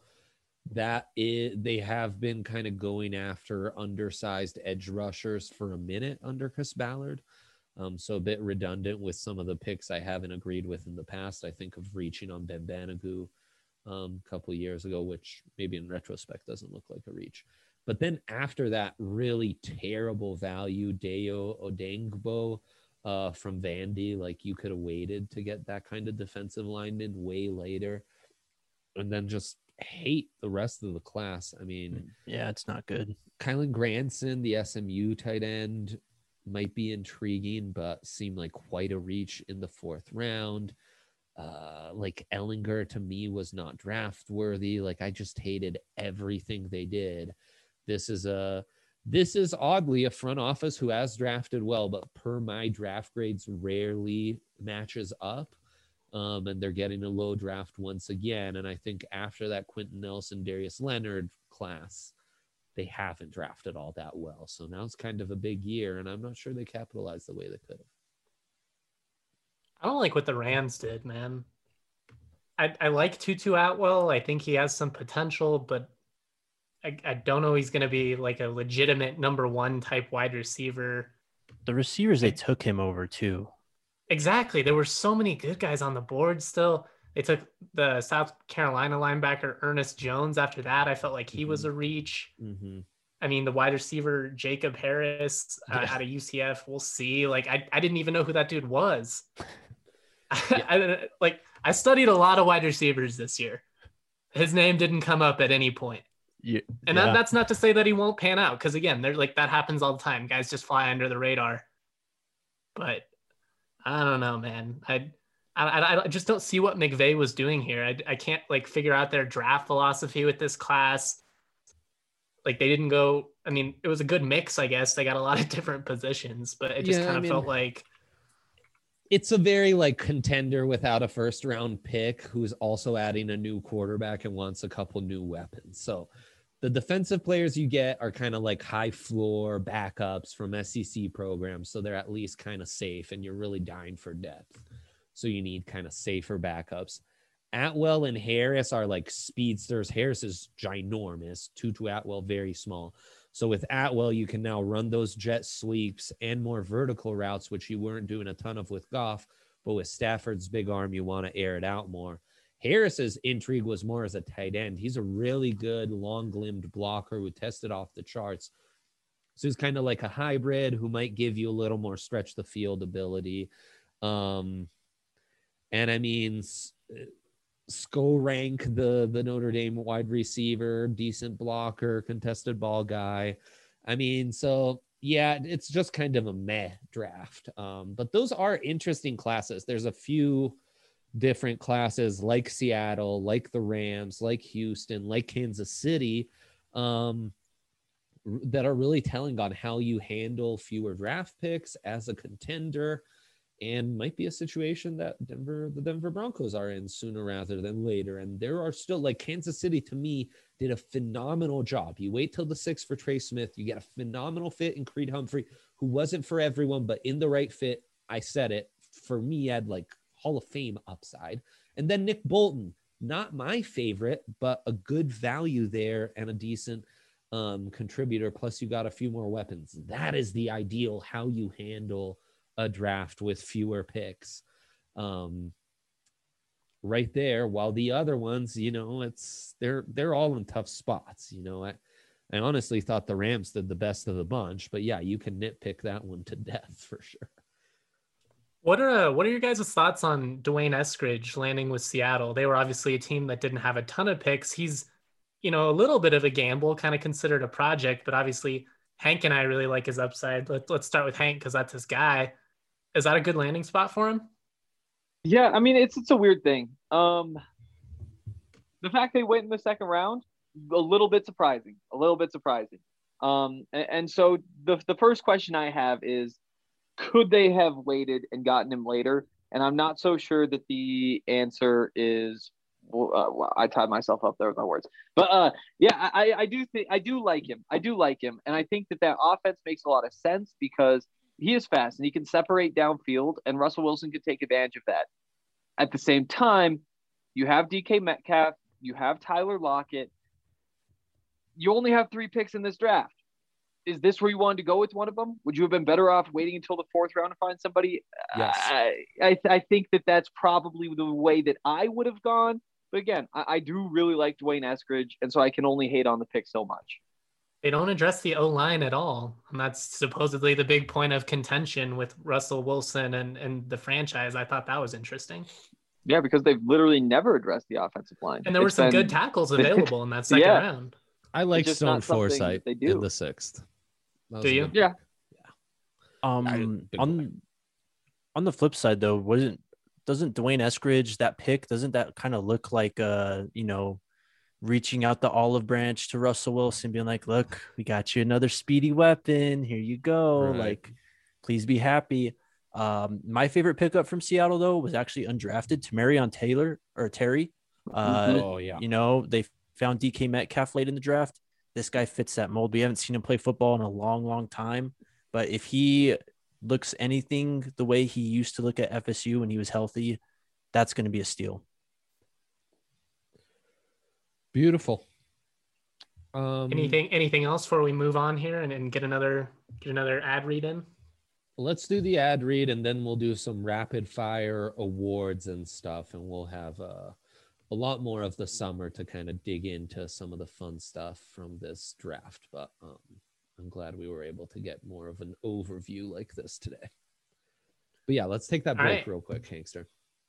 Speaker 2: They have been kind of going after undersized edge rushers for a minute under Chris Ballard. So a bit redundant with some of the picks I haven't agreed with in the past. I think of reaching on Ben Banogu a couple of years ago, which maybe in retrospect doesn't look like a reach. But then after that, really terrible value, Dayo Odeyingbo from Vandy. Like, you could have waited to get that kind of defensive lineman way later. And then just hate the rest of the class. I mean,
Speaker 4: yeah, it's not good.
Speaker 2: Kylan Granson, the SMU tight end, might be intriguing, but seemed like quite a reach in the 4th round. Like, Ellinger to me was not draft worthy. Like, I just hated everything they did. This is oddly a front office who has drafted well, but per my draft grades rarely matches up. And they're getting a low draft once again. And I think after that Quentin Nelson, Darius Leonard class, they haven't drafted all that well. So now it's kind of a big year, and I'm not sure they capitalized the way they could have.
Speaker 3: I don't like what the Rams did, man. I like Tutu Atwell. I think he has some potential, but I don't know he's going to be like a legitimate number 1 type wide receiver.
Speaker 4: The receivers, they took him over too.
Speaker 3: Exactly. There were so many good guys on the board still. They took the South Carolina linebacker Ernest Jones. After that, I felt like he was a reach.
Speaker 2: Mm-hmm.
Speaker 3: I mean, the wide receiver Jacob Harris out of UCF, we'll see. Like, I didn't even know who that dude was. I studied a lot of wide receivers this year. His name didn't come up at any point. And that's not to say that he won't pan out, because again, they're like, that happens all the time. Guys just fly under the radar. But I don't know, man. I just don't see what McVay was doing here. I can't like figure out their draft philosophy with this class. Like, they didn't go, I mean, it was a good mix, I guess. They got a lot of different positions, but it just felt like
Speaker 2: it's a very like contender without a 1st round pick who's also adding a new quarterback and wants a couple new weapons. So the defensive players you get are kind of like high floor backups from SEC programs. So they're at least kind of safe, and you're really dying for depth. So you need kind of safer backups. Atwell and Harris are like speedsters. Harris is ginormous. Tutu Atwell, very small. So with Atwell, you can now run those jet sweeps and more vertical routes, which you weren't doing a ton of with Goff. But with Stafford's big arm, you want to air it out more. Harris's intrigue was more as a tight end. He's a really good long-limbed blocker who tested off the charts. So he's kind of like a hybrid who might give you a little more stretch the field ability. And I mean, Skorank, the Notre Dame wide receiver, decent blocker, contested ball guy. I mean, so yeah, it's just kind of a meh draft. But those are interesting classes. There's a few different classes like Seattle, like the Rams, like Houston, like Kansas City, that are really telling on how you handle fewer draft picks as a contender, and might be a situation that the Denver Broncos are in sooner rather than later. And there are still, like, Kansas City to me did a phenomenal job. You wait till the 6th for Trey Smith, you get a phenomenal fit in Creed Humphrey, who wasn't for everyone, but in the right fit. I said it, for me, had like Hall of Fame upside. And then Nick Bolton, not my favorite, but a good value there and a decent contributor, plus you got a few more weapons. That is the ideal how you handle a draft with fewer picks. Right there, while the other ones, you know, they're all in tough spots. You know, I honestly thought the Rams did the best of the bunch, but yeah, you can nitpick that one to death for sure.
Speaker 3: What are your guys' thoughts on Dwayne Eskridge landing with Seattle? They were obviously a team that didn't have a ton of picks. He's, you know, a little bit of a gamble, kind of considered a project, but obviously Hank and I really like his upside. Let's start with Hank because that's his guy. Is that a good landing spot for him?
Speaker 1: Yeah, I mean, it's a weird thing. The fact they went in the second round, a little bit surprising. And so the first question I have is, could they have waited and gotten him later? And I'm not so sure that the answer is. Well, I tied myself up there with my words, but yeah, I do like him. And I think that offense makes a lot of sense because he is fast and he can separate downfield, and Russell Wilson could take advantage of that. At the same time, you have DK Metcalf, you have Tyler Lockett. You only have 3 picks in this draft. Is this where you wanted to go with one of them? Would you have been better off waiting until the 4th round to find somebody?
Speaker 2: Yes.
Speaker 1: I think that's probably the way that I would have gone. But again, I do really like Dwayne Eskridge, and so I can only hate on the pick so much.
Speaker 3: They don't address the O-line at all. And that's supposedly the big point of contention with Russell Wilson and the franchise. I thought that was interesting.
Speaker 1: Yeah, because they've literally never addressed the offensive line.
Speaker 3: And there were some good tackles available in that second round.
Speaker 2: I like Stone Forsythe in the 6th.
Speaker 3: Do you?
Speaker 1: Yeah.
Speaker 4: On the flip side, though, doesn't Dwayne Eskridge, that pick, doesn't that kind of look like reaching out the olive branch to Russell Wilson, being like, look, we got you another speedy weapon. Here you go.
Speaker 2: Right.
Speaker 4: Like, please be happy. My favorite pickup from Seattle, though, was actually undrafted, Tamarion Terry.
Speaker 2: Oh, yeah.
Speaker 4: You know, they found DK Metcalf late in the draft. This guy fits that mold. We haven't seen him play football in a long, long time. But if he looks anything the way he used to look at FSU when he was healthy, that's going to be a steal.
Speaker 2: Beautiful.
Speaker 3: Anything else before we move on here and get another ad read in?
Speaker 2: Let's do the ad read, and then we'll do some rapid fire awards and stuff, and we'll have a lot more of the summer to kind of dig into some of the fun stuff from this draft. But I'm glad we were able to get more of an overview like this today. But yeah, let's take that break real quick, Hankster.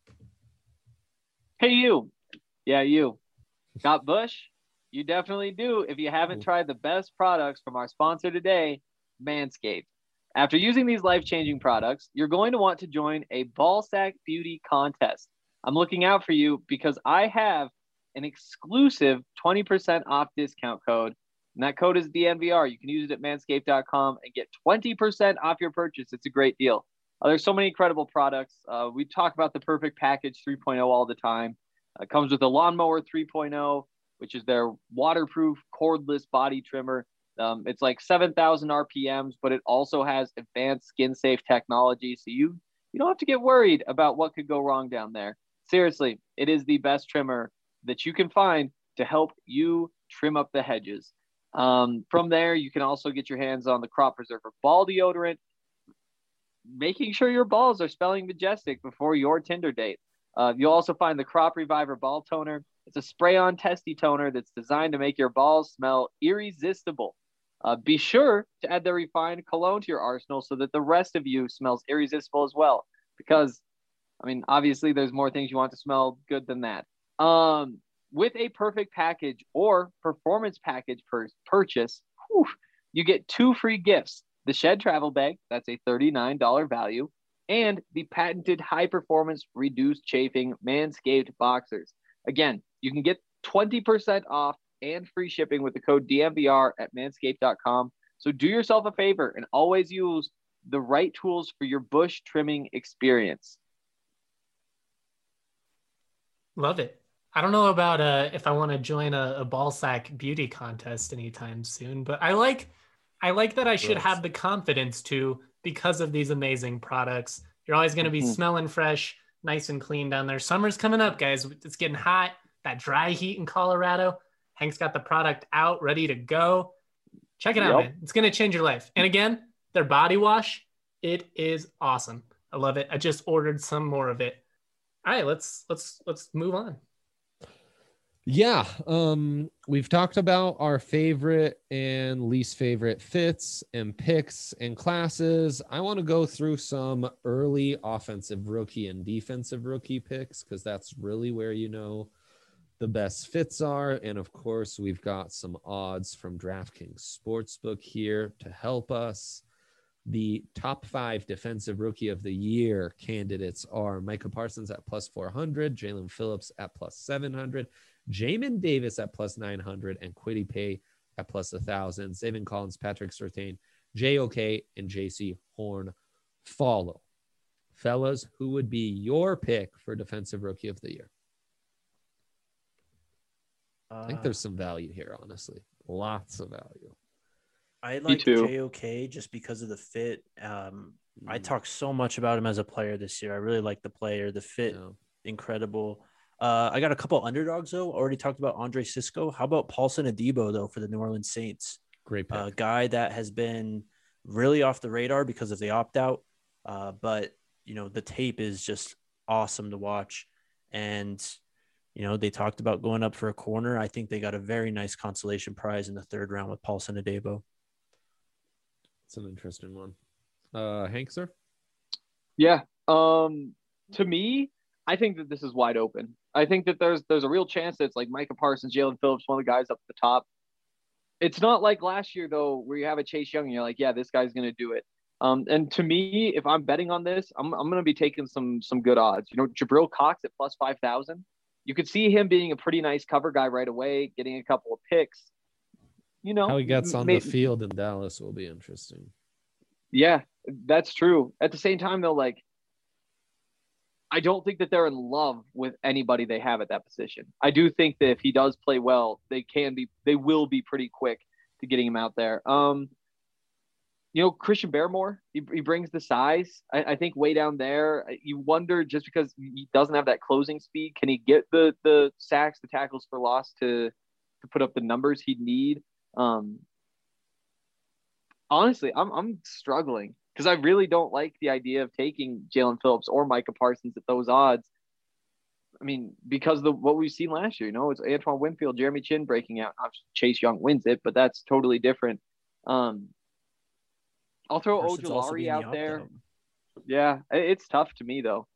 Speaker 1: Hey, you. Yeah, you. Got Bush? You definitely do if you haven't tried the best products from our sponsor today, Manscaped. After using these life-changing products, you're going to want to join a Ballsack Beauty contest. I'm looking out for you because I have an exclusive 20% off discount code, and that code is DNVR. You can use it at manscaped.com and get 20% off your purchase. It's a great deal. There's so many incredible products. We talk about the Perfect Package 3.0 all the time. It comes with a Lawnmower 3.0, which is their waterproof cordless body trimmer. It's like 7,000 RPMs, but it also has advanced skin-safe technology, so you don't have to get worried about what could go wrong down there. Seriously, it is the best trimmer that you can find to help you trim up the hedges. From there, you can also get your hands on the Crop Preserver Ball Deodorant, making sure your balls are smelling majestic before your Tinder date. You'll also find the Crop Reviver Ball Toner. It's a spray-on testy toner that's designed to make your balls smell irresistible. Be sure to add the refined cologne to your arsenal so that the rest of you smells irresistible as well. Because, I mean, obviously there's more things you want to smell good than that. With a Perfect Package or Performance Package purchase, you get 2 free gifts. The Shed Travel Bag, that's a $39 value, and the patented high-performance reduced chafing Manscaped Boxers. Again, you can get 20% off and free shipping with the code DMVR at manscaped.com. So do yourself a favor and always use the right tools for your bush trimming experience.
Speaker 3: Love it. I don't know about if I want to join a ball sack beauty contest anytime soon, but I like that I should have the confidence to, because of these amazing products. You're always going to be smelling fresh, nice and clean down there. Summer's coming up, guys. It's getting hot. That dry heat in Colorado. Hank's got the product out, ready to go. Check it out, man. It's going to change your life. And again, their body wash, it is awesome. I love it. I just ordered some more of it. All right, let's move on.
Speaker 2: Yeah, we've talked about our favorite and least favorite fits and picks and classes. I want to go through some early offensive rookie and defensive rookie picks because that's really where the best fits are. And of course, we've got some odds from DraftKings Sportsbook here to help us. The top 5 defensive rookie of the year candidates are Micah Parsons at plus 400, Jalen Phillips at plus 700, Jamin Davis at plus 900, and Kwity Paye at plus 1,000. Zaven Collins, Patrick Surtain, JOK, and JC Horn follow. Fellas, who would be your pick for defensive rookie of the year? I think there's some value here, honestly. Lots of value.
Speaker 4: I like JOK just because of the fit. I talked so much about him as a player this year. I really like the player, the fit, incredible. I got a couple underdogs, though. Already talked about Andre Cisco. How about Paulson Adebo, though, for the New Orleans Saints?
Speaker 2: Great pick.
Speaker 4: A guy that has been really off the radar because of the opt-out. But, the tape is just awesome to watch. And, they talked about going up for a corner. I think they got a very nice consolation prize in the 3rd round with Paulson Adebo.
Speaker 2: It's an interesting one. Hank, sir?
Speaker 1: Yeah. To me, I think that this is wide open. I think that there's a real chance that it's like Micah Parsons, Jalen Phillips, one of the guys up at the top. It's not like last year, though, where you have a Chase Young and you're like, yeah, this guy's going to do it. And to me, if I'm betting on this, I'm going to be taking some good odds. Jabril Cox at plus 5,000. You could see him being a pretty nice cover guy right away, getting a couple of picks.
Speaker 2: How he gets on the field in Dallas will be interesting.
Speaker 1: Yeah, that's true. At the same time, though, I don't think that they're in love with anybody they have at that position. I do think that if he does play well, they will be pretty quick to getting him out there. Christian Barmore, he brings the size. I think way down there, you wonder just because he doesn't have that closing speed, can he get the sacks, the tackles for loss to put up the numbers he'd need? Honestly, I'm struggling because I really don't like the idea of taking Jalen Phillips or Micah Parsons at those odds. I mean, because what we've seen last year, it's Antoine Winfield, Jeremy Chin breaking out. Chase Young wins it, but that's totally different. I'll throw Ojulari out there. Yeah, it's tough to me, though.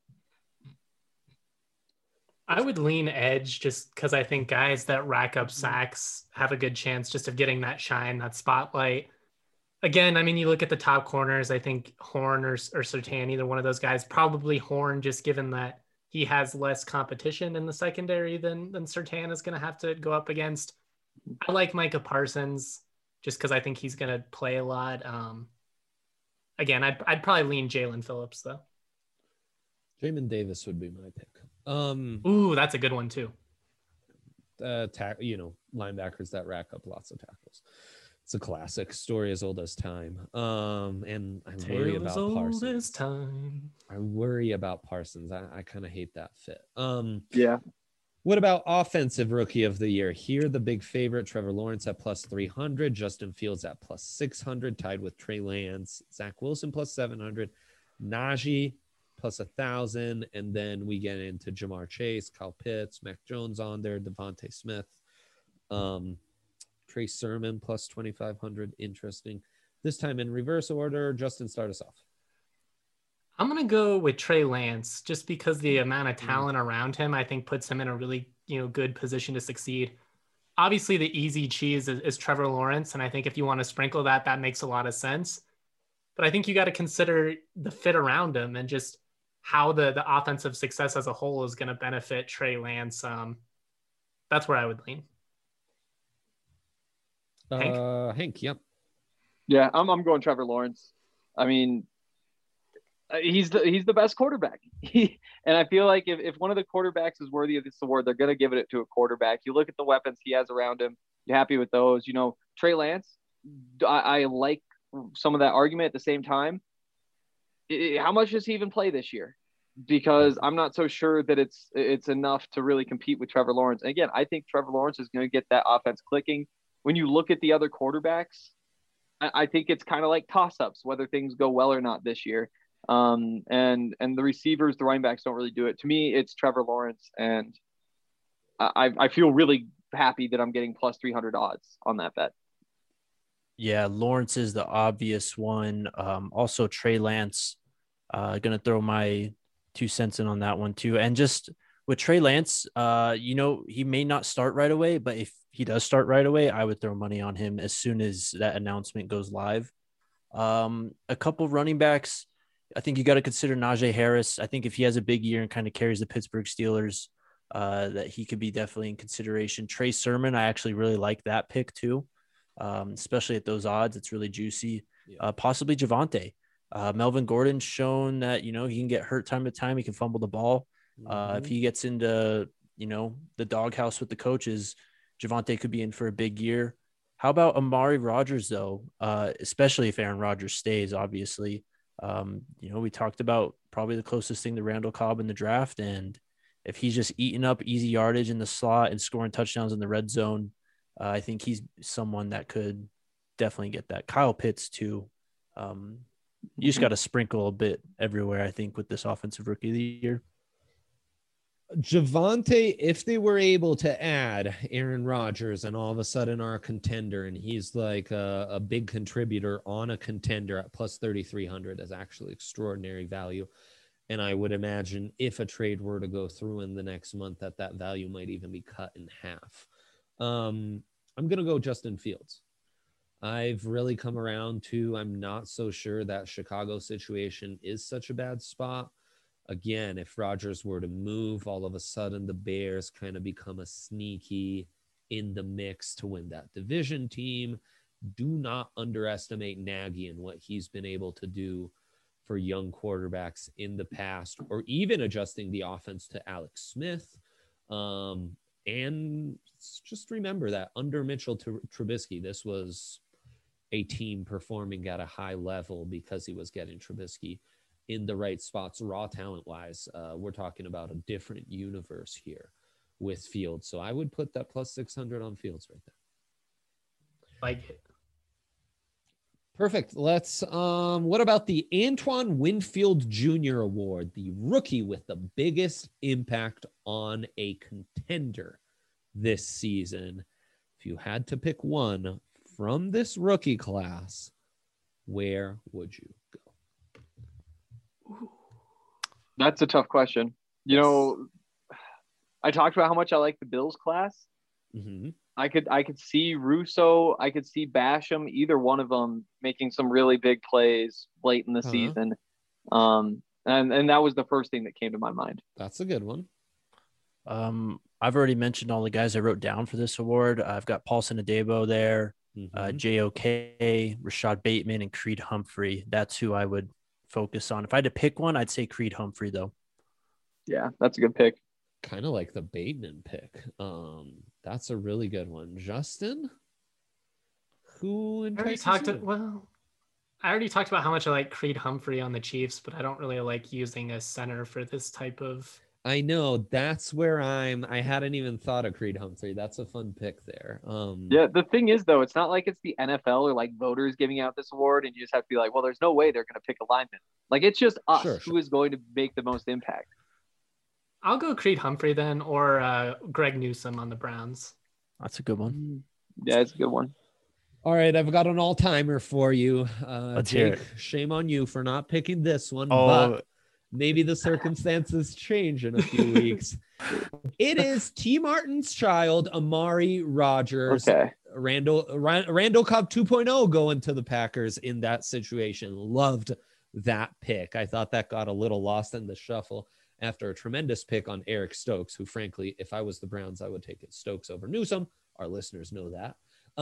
Speaker 3: I would lean edge just because I think guys that rack up sacks have a good chance just of getting that shine, that spotlight. Again, I mean, you look at the top corners, I think Horn or Surtain, either one of those guys, probably Horn, just given that he has less competition in the secondary than Surtain is going to have to go up against. I like Micah Parsons just because I think he's going to play a lot. Again, I'd probably lean Jalen Phillips, though.
Speaker 2: Jamin Davis would be my pick.
Speaker 3: Ooh, that's a good one, too.
Speaker 2: Linebackers that rack up lots of tackles. It's a classic story as old as time. And I worry about Parsons. I worry about Parsons. I kind of hate that fit.
Speaker 1: Yeah.
Speaker 2: What about offensive rookie of the year? Here, the big favorite, Trevor Lawrence at plus 300, Justin Fields at plus 600, tied with Trey Lance, Zach Wilson plus 700, Najee plus 1,000, and then we get into Jamar Chase, Kyle Pitts, Mac Jones on there, Devontae Smith, Trey Sermon plus 2,500. Interesting. This time in reverse order. Justin, start us off.
Speaker 3: I'm going to go with Trey Lance just because the amount of talent around him, I think, puts him in a really, good position to succeed. Obviously, the easy cheese is Trevor Lawrence. And I think if you want to sprinkle that makes a lot of sense. But I think you got to consider the fit around him and just how the offensive success as a whole is going to benefit Trey Lance. That's where I would lean.
Speaker 2: Hank, yep.
Speaker 1: Yeah, I'm going Trevor Lawrence. I mean, he's the best quarterback. And I feel like if one of the quarterbacks is worthy of this award, they're going to give it to a quarterback. You look at the weapons he has around him. You're happy with those. Trey Lance, I like some of that argument. At the same time, how much does he even play this year? Because I'm not so sure that it's enough to really compete with Trevor Lawrence. And again, I think Trevor Lawrence is going to get that offense clicking. When you look at the other quarterbacks, I think it's kind of like toss-ups, whether things go well or not this year. And the receivers, the running backs don't really do it. To me, it's Trevor Lawrence, and I feel really happy that I'm getting plus 300 odds on that bet.
Speaker 4: Yeah, Lawrence is the obvious one. Also, Trey Lance. Gonna throw my 2 cents in on that one too. And just with Trey Lance, he may not start right away, but if he does start right away, I would throw money on him as soon as that announcement goes live. A couple of running backs. I think you got to consider Najee Harris. I think if he has a big year and kind of carries the Pittsburgh Steelers, that he could be definitely in consideration. Trey Sermon, I actually really like that pick too, especially at those odds. It's really juicy. Possibly Javonte. Melvin Gordon's shown that, he can get hurt time to time. He can fumble the ball. If he gets into, the doghouse with the coaches, Javonte could be in for a big year. How about Amari Rodgers, though, especially if Aaron Rodgers stays, obviously. We talked about probably the closest thing to Randall Cobb in the draft. And if he's just eating up easy yardage in the slot and scoring touchdowns in the red zone, I think he's someone that could definitely get that. Kyle Pitts, too. You just got to sprinkle a bit everywhere, I think, with this offensive rookie of the year.
Speaker 2: Javonte, if they were able to add Aaron Rodgers and all of a sudden are a contender, and he's like a big contributor on a contender at plus 3,300 is actually extraordinary value. And I would imagine if a trade were to go through in the next month, that value might even be cut in half. I'm going to go Justin Fields. I've really come around to, I'm not so sure that Chicago situation is such a bad spot. Again, if Rodgers were to move, all of a sudden the Bears kind of become a sneaky in the mix to win that division team. Do not underestimate Nagy and what he's been able to do for young quarterbacks in the past, or even adjusting the offense to Alex Smith. And just remember that under Mitchell Trubisky, this was a team performing at a high level because he was getting Trubisky in the right spots, raw talent wise. We're talking about a different universe here with Fields. So I would put that plus 600 on Fields right there.
Speaker 3: Like it.
Speaker 2: Perfect. Let's, what about the Antoine Winfield Jr. Award, the rookie with the biggest impact on a contender this season? If you had to pick one from this rookie class, where would you go?
Speaker 1: That's a tough question. I talked about how much I like the Bills class.
Speaker 2: Mm-hmm.
Speaker 1: I could see Russo. I could see Basham. Either one of them making some really big plays late in the season. And that was the first thing that came to my mind.
Speaker 2: That's a good one.
Speaker 4: I've already mentioned all the guys I wrote down for this award. I've got Paulson Adebo there, JOK, Rashad Bateman, and Creed Humphrey. That's who I would focus on. If I had to pick one, I'd say Creed Humphrey, though.
Speaker 1: Yeah, that's a good pick.
Speaker 2: Kind of like the Bateman pick. That's a really good one. Justin, who entices you?
Speaker 3: I already talked about how much I like Creed Humphrey on the Chiefs, but I don't really like using a center for this type of.
Speaker 2: I know, that's where I hadn't even thought of Creed Humphrey. That's a fun pick there.
Speaker 1: Yeah, the thing is, though, it's not like it's the NFL or like voters giving out this award and you just have to be like, well, there's no way they're going to pick a lineman. Like, it's just us who is going to make the most impact.
Speaker 3: I'll go Creed Humphrey then, or Greg Newsome on the Browns.
Speaker 4: That's a good one.
Speaker 1: Yeah, it's a good one.
Speaker 2: All right, I've got an all-timer for you.
Speaker 4: Let's hear it.
Speaker 2: Shame on you for not picking this one,
Speaker 4: Oh.
Speaker 2: but maybe the circumstances change in a few weeks. It is T. Martin's child, Amari Rodgers.
Speaker 1: Okay.
Speaker 2: Randall Cobb 2.0 going to the Packers in that situation. Loved that pick. I thought that got a little lost in the shuffle after a tremendous pick on Eric Stokes, who, frankly, if I was the Browns, I would take it Stokes over Newsome. Our listeners know that.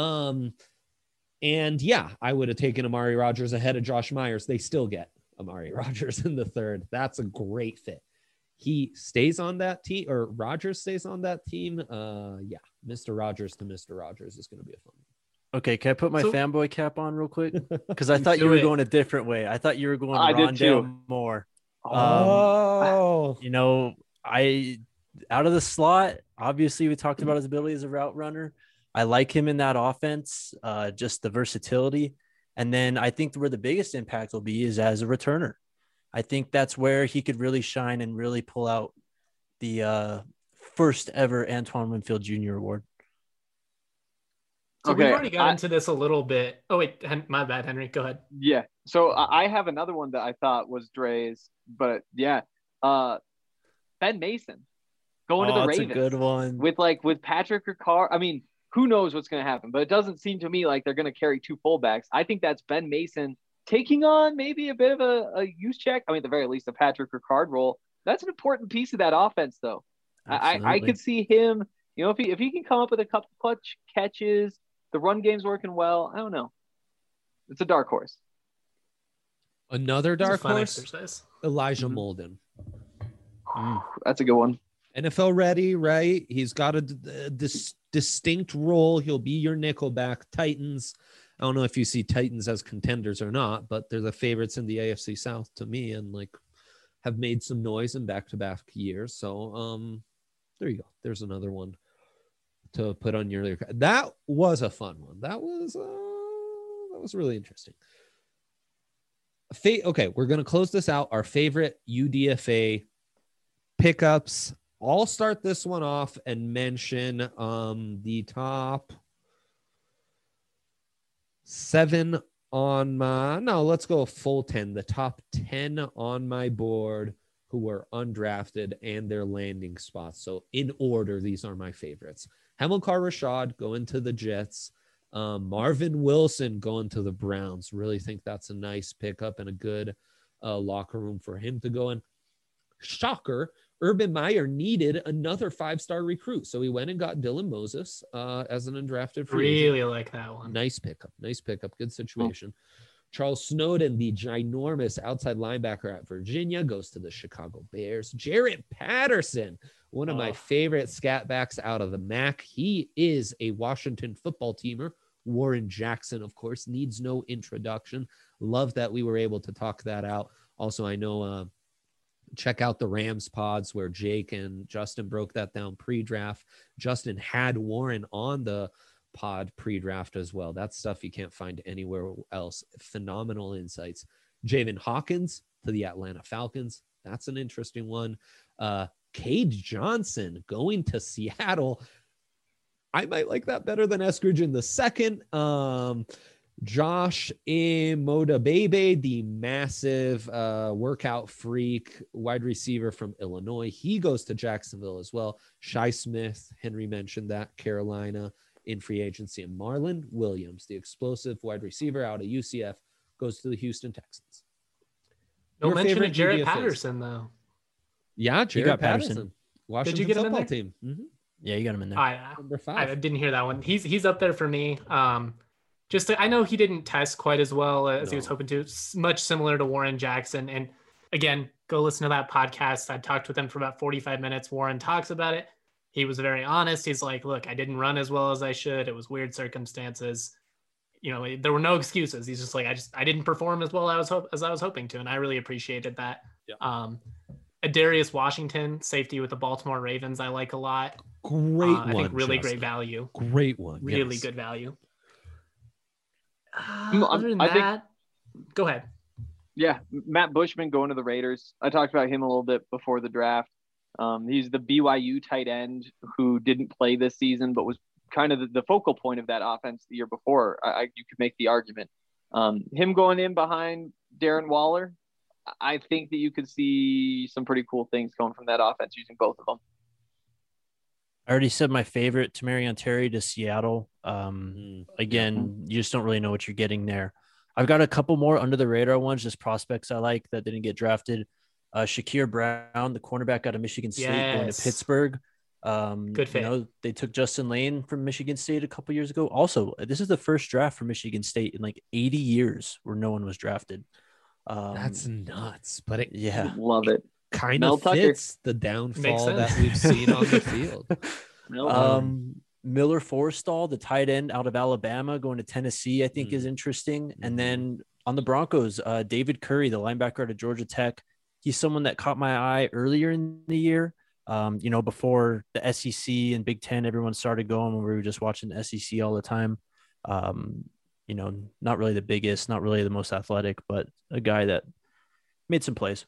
Speaker 2: And yeah, I would have taken Amari Rodgers ahead of Josh Myers. They still get Amari Rodgers in the third. That's a great fit. He stays on that team, or Rodgers stays on that team. Yeah, Mr. Rodgers to Mr. Rodgers is going to be a fun one.
Speaker 4: Okay, can I put my fanboy cap on real quick? Because I thought you were going a different way. I thought you were going Rondale Moore. Out of the slot, obviously we talked about his ability as a route runner. I like him in that offense, just the versatility. And then I think where the biggest impact will be is as a returner. I think that's where he could really shine and really pull out the first ever Antoine Winfield Jr. award.
Speaker 3: So we've already got into this a little bit. Oh, wait, my bad, Henry. Go ahead.
Speaker 1: Yeah. So I have another one that I thought was Dre's, but yeah. Ben Mason going to the Ravens.
Speaker 4: That's a good one.
Speaker 1: With Patrick Ricard. I mean, who knows what's going to happen, but it doesn't seem to me like they're going to carry two fullbacks. I think that's Ben Mason taking on maybe a bit of a use check. I mean, at the very least, a Patrick Ricard role. That's an important piece of that offense, though. I could see him, if he can come up with a couple clutch catches, the run game's working well. I don't know. It's a dark horse.
Speaker 2: Another dark horse,
Speaker 3: exercise.
Speaker 2: Elijah Molden.
Speaker 1: That's a good one.
Speaker 2: NFL ready, right? He's got a distinct role. He'll be your nickelback. Titans. I don't know if you see Titans as contenders or not, but they're the favorites in the AFC South to me, and have made some noise in back-to-back years. So there you go. There's another one to put on your. That was a fun one. That was really interesting. Okay, we're gonna close this out. Our favorite UDFA pickups. I'll start this one off and mention the top 7 on my, no, let's go full 10. The top 10 on my board who were undrafted and their landing spots. So in order, these are my favorites. Hamilcar Rashad going to the Jets. Marvin Wilson going to the Browns. Really think that's a nice pickup and a good locker room for him to go in. Shocker, Urban Meyer needed another 5-star recruit. So he went and got Dylan Moses as an undrafted free agent.
Speaker 3: Really like that one.
Speaker 2: Nice pickup. Good situation. Charles Snowden, the ginormous outside linebacker at Virginia, goes to the Chicago Bears. Jarrett Patterson, one of my favorite scat backs out of the MAC. He is a Washington football teamer. Warren Jackson, of course, needs no introduction. Love that we were able to talk that out. Also, I know check out the Rams pods where Jake and Justin broke that down pre-draft. Justin had Warren on the pod pre-draft as well. That's stuff you can't find anywhere else. Phenomenal insights. Javen Hawkins to the Atlanta Falcons. That's an interesting one. Cade Johnson going to Seattle. I might like that better than Eskridge in the second. Josh Imodabebe, the massive workout freak wide receiver from Illinois. He goes to Jacksonville as well. Shi Smith, Henry mentioned that, Carolina in free agency. And Marlon Williams, the explosive wide receiver out of UCF, goes to the Houston Texans.
Speaker 3: No mention of Jarrett Patterson, though.
Speaker 2: Yeah, Jarrett Patterson. Washington
Speaker 3: Did you get him
Speaker 2: football
Speaker 3: in there?
Speaker 2: team. Mm-hmm.
Speaker 4: Yeah, you got him in there.
Speaker 2: Number 5.
Speaker 3: I didn't hear that one. He's up there for me. I know he didn't test quite as well as he was hoping to. Much similar to Warren Jackson. And again, go listen to that podcast. I talked with him for about 45 minutes. Warren talks about it. He was very honest. He's like, look, I didn't run as well as I should. It was weird circumstances. There were no excuses. He's just like, I didn't perform as well as I was hoping to. And I really appreciated that.
Speaker 2: Yeah.
Speaker 3: Adarius Washington, safety with the Baltimore Ravens, I like a lot.
Speaker 2: Great one.
Speaker 3: I think really
Speaker 2: Justin.
Speaker 3: great value.
Speaker 2: Great one.
Speaker 3: Really
Speaker 2: yes.
Speaker 3: good value.
Speaker 1: Other than that,
Speaker 3: go ahead.
Speaker 1: Yeah, Matt Bushman going to the Raiders. I talked about him a little bit before the draft. He's the BYU tight end who didn't play this season, but was kind of the focal point of that offense the year before. You could make the argument. Him going in behind Darren Waller, I think that you could see some pretty cool things going from that offense using both of them.
Speaker 4: I already said my favorite, Tamarion Terry to Seattle. Again, you just don't really know what you're getting there. I've got a couple more under the radar ones, just prospects I like that didn't get drafted. Shakir Brown, the cornerback out of Michigan State, going to Pittsburgh.
Speaker 3: Good fit.
Speaker 4: They took Justin Lane from Michigan State a couple years ago. Also, this is the first draft for Michigan State in like 80 years where no one was drafted.
Speaker 2: That's nuts, but
Speaker 1: love it.
Speaker 2: Kind of fits the downfall that we've seen on the field.
Speaker 4: Miller Forrestall, the tight end out of Alabama, going to Tennessee, I think is interesting. And then on the Broncos, David Curry, the linebacker out of Georgia Tech. He's someone that caught my eye earlier in the year. Before the SEC and Big Ten, everyone started going when we were just watching the SEC all the time. not really the biggest, not really the most athletic, but a guy that made some plays.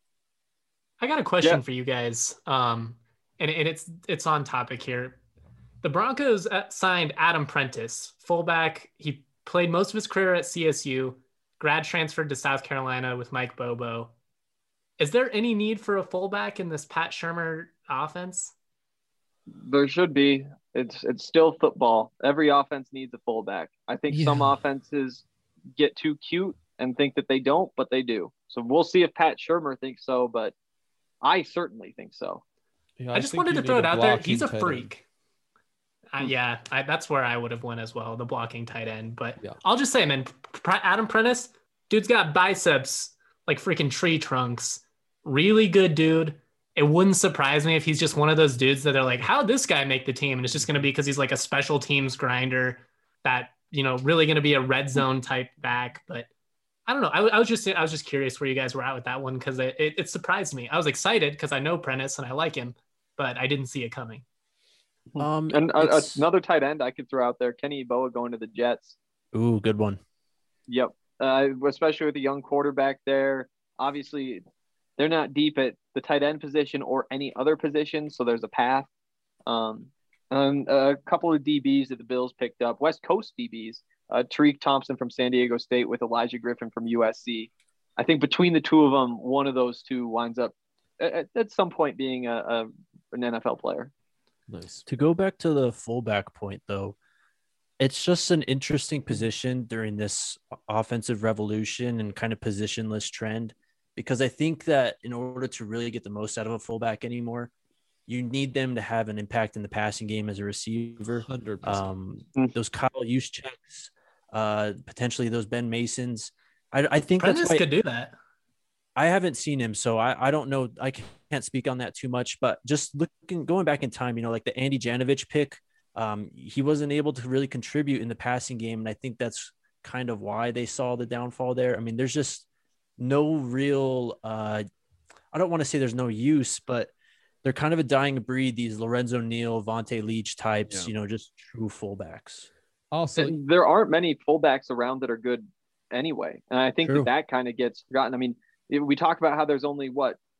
Speaker 3: I got a question for you guys. And it's on topic here. The Broncos signed Adam Prentice, fullback. He played most of his career at CSU, grad transferred to South Carolina with Mike Bobo. Is there any need for a fullback in this Pat Shurmur offense?
Speaker 1: There should be. It's still football. Every offense needs a fullback. I think some offenses get too cute and think that they don't, but they do. So we'll see if Pat Shurmur thinks so, but I certainly think so.
Speaker 3: Yeah, I just wanted to throw it out there. He's a freak. That's where I would have went as well, the blocking tight end. But I'll just say, man, Adam Prentice, dude's got biceps like freaking tree trunks. Really good dude. It wouldn't surprise me if he's just one of those dudes that they're like, how'd this guy make the team? And it's just going to be because he's like a special teams grinder that, really going to be a red zone type back. But I don't know. I was just curious where you guys were at with that one because it surprised me. I was excited because I know Prentice and I like him, but I didn't see it coming.
Speaker 1: Another tight end I could throw out there, Kenny Yeboah going to the Jets.
Speaker 4: Ooh, good one.
Speaker 1: Yep. Especially with a young quarterback there. Obviously, they're not deep at the tight end position or any other position, so there's a path. And a couple of DBs that the Bills picked up, West Coast DBs, Tariq Thompson from San Diego State with Elijah Griffin from USC. I think between the two of them, one of those two winds up at some point being an NFL player.
Speaker 4: Nice. To go back to the fullback point, though, it's just an interesting position during this offensive revolution and kind of positionless trend, because I think that in order to really get the most out of a fullback anymore, you need them to have an impact in the passing game as a receiver.
Speaker 2: 100%.
Speaker 4: Those Kyle Juszczyks, potentially those Ben Masons. I think
Speaker 3: Prentice could do that.
Speaker 4: I haven't seen him, so I don't know. I can't speak on that too much, but just going back in time, like the Andy Janovich pick, he wasn't able to really contribute in the passing game. And I think that's kind of why they saw the downfall there. I mean, there's just no real, I don't want to say there's no use, but they're kind of a dying breed. These Lorenzo Neal, Vontae Leach types, just true fullbacks.
Speaker 1: Also, there aren't many fullbacks around that are good anyway. And I think that kind of gets forgotten. I mean, we talk about how there's only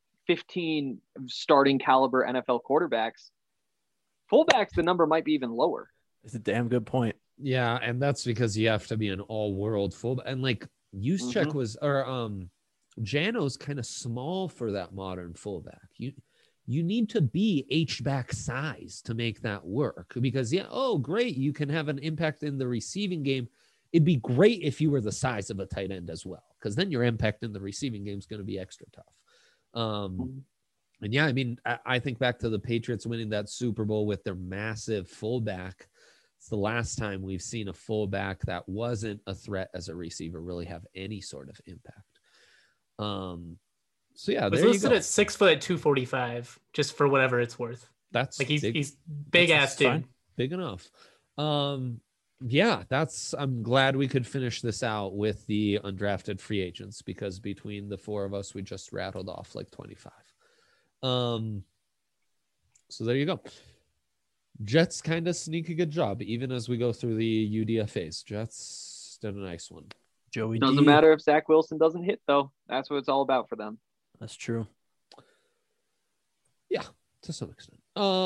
Speaker 1: 15 starting caliber NFL quarterbacks. Fullbacks, the number might be even lower.
Speaker 4: It's a damn good point.
Speaker 2: Yeah, and that's because you have to be an all-world fullback. And like Juszczyk was, or Jano's kind of small for that modern fullback. You need to be H-back size to make that work because great, you can have an impact in the receiving game. It'd be great if you were the size of a tight end as well, because then your impact in the receiving game is going to be extra tough. And I mean, I think back to the Patriots winning that Super Bowl with their massive fullback. It's the last time we've seen a fullback that wasn't a threat as a receiver really have any sort of impact. So yeah,
Speaker 3: was listed at 6 foot 245, just for whatever it's worth.
Speaker 2: That's
Speaker 3: like he's big ass dude.
Speaker 2: Fine. Big enough. I'm glad we could finish this out with the undrafted free agents, because between the four of us, we just rattled off like 25. So there you go. Jets kind of sneak a good job, even as we go through the UDFAs. Jets did a nice one.
Speaker 4: Joey
Speaker 1: doesn't matter if Zach Wilson doesn't hit, though. That's what it's all about for them.
Speaker 4: That's true.
Speaker 2: Yeah, to some extent.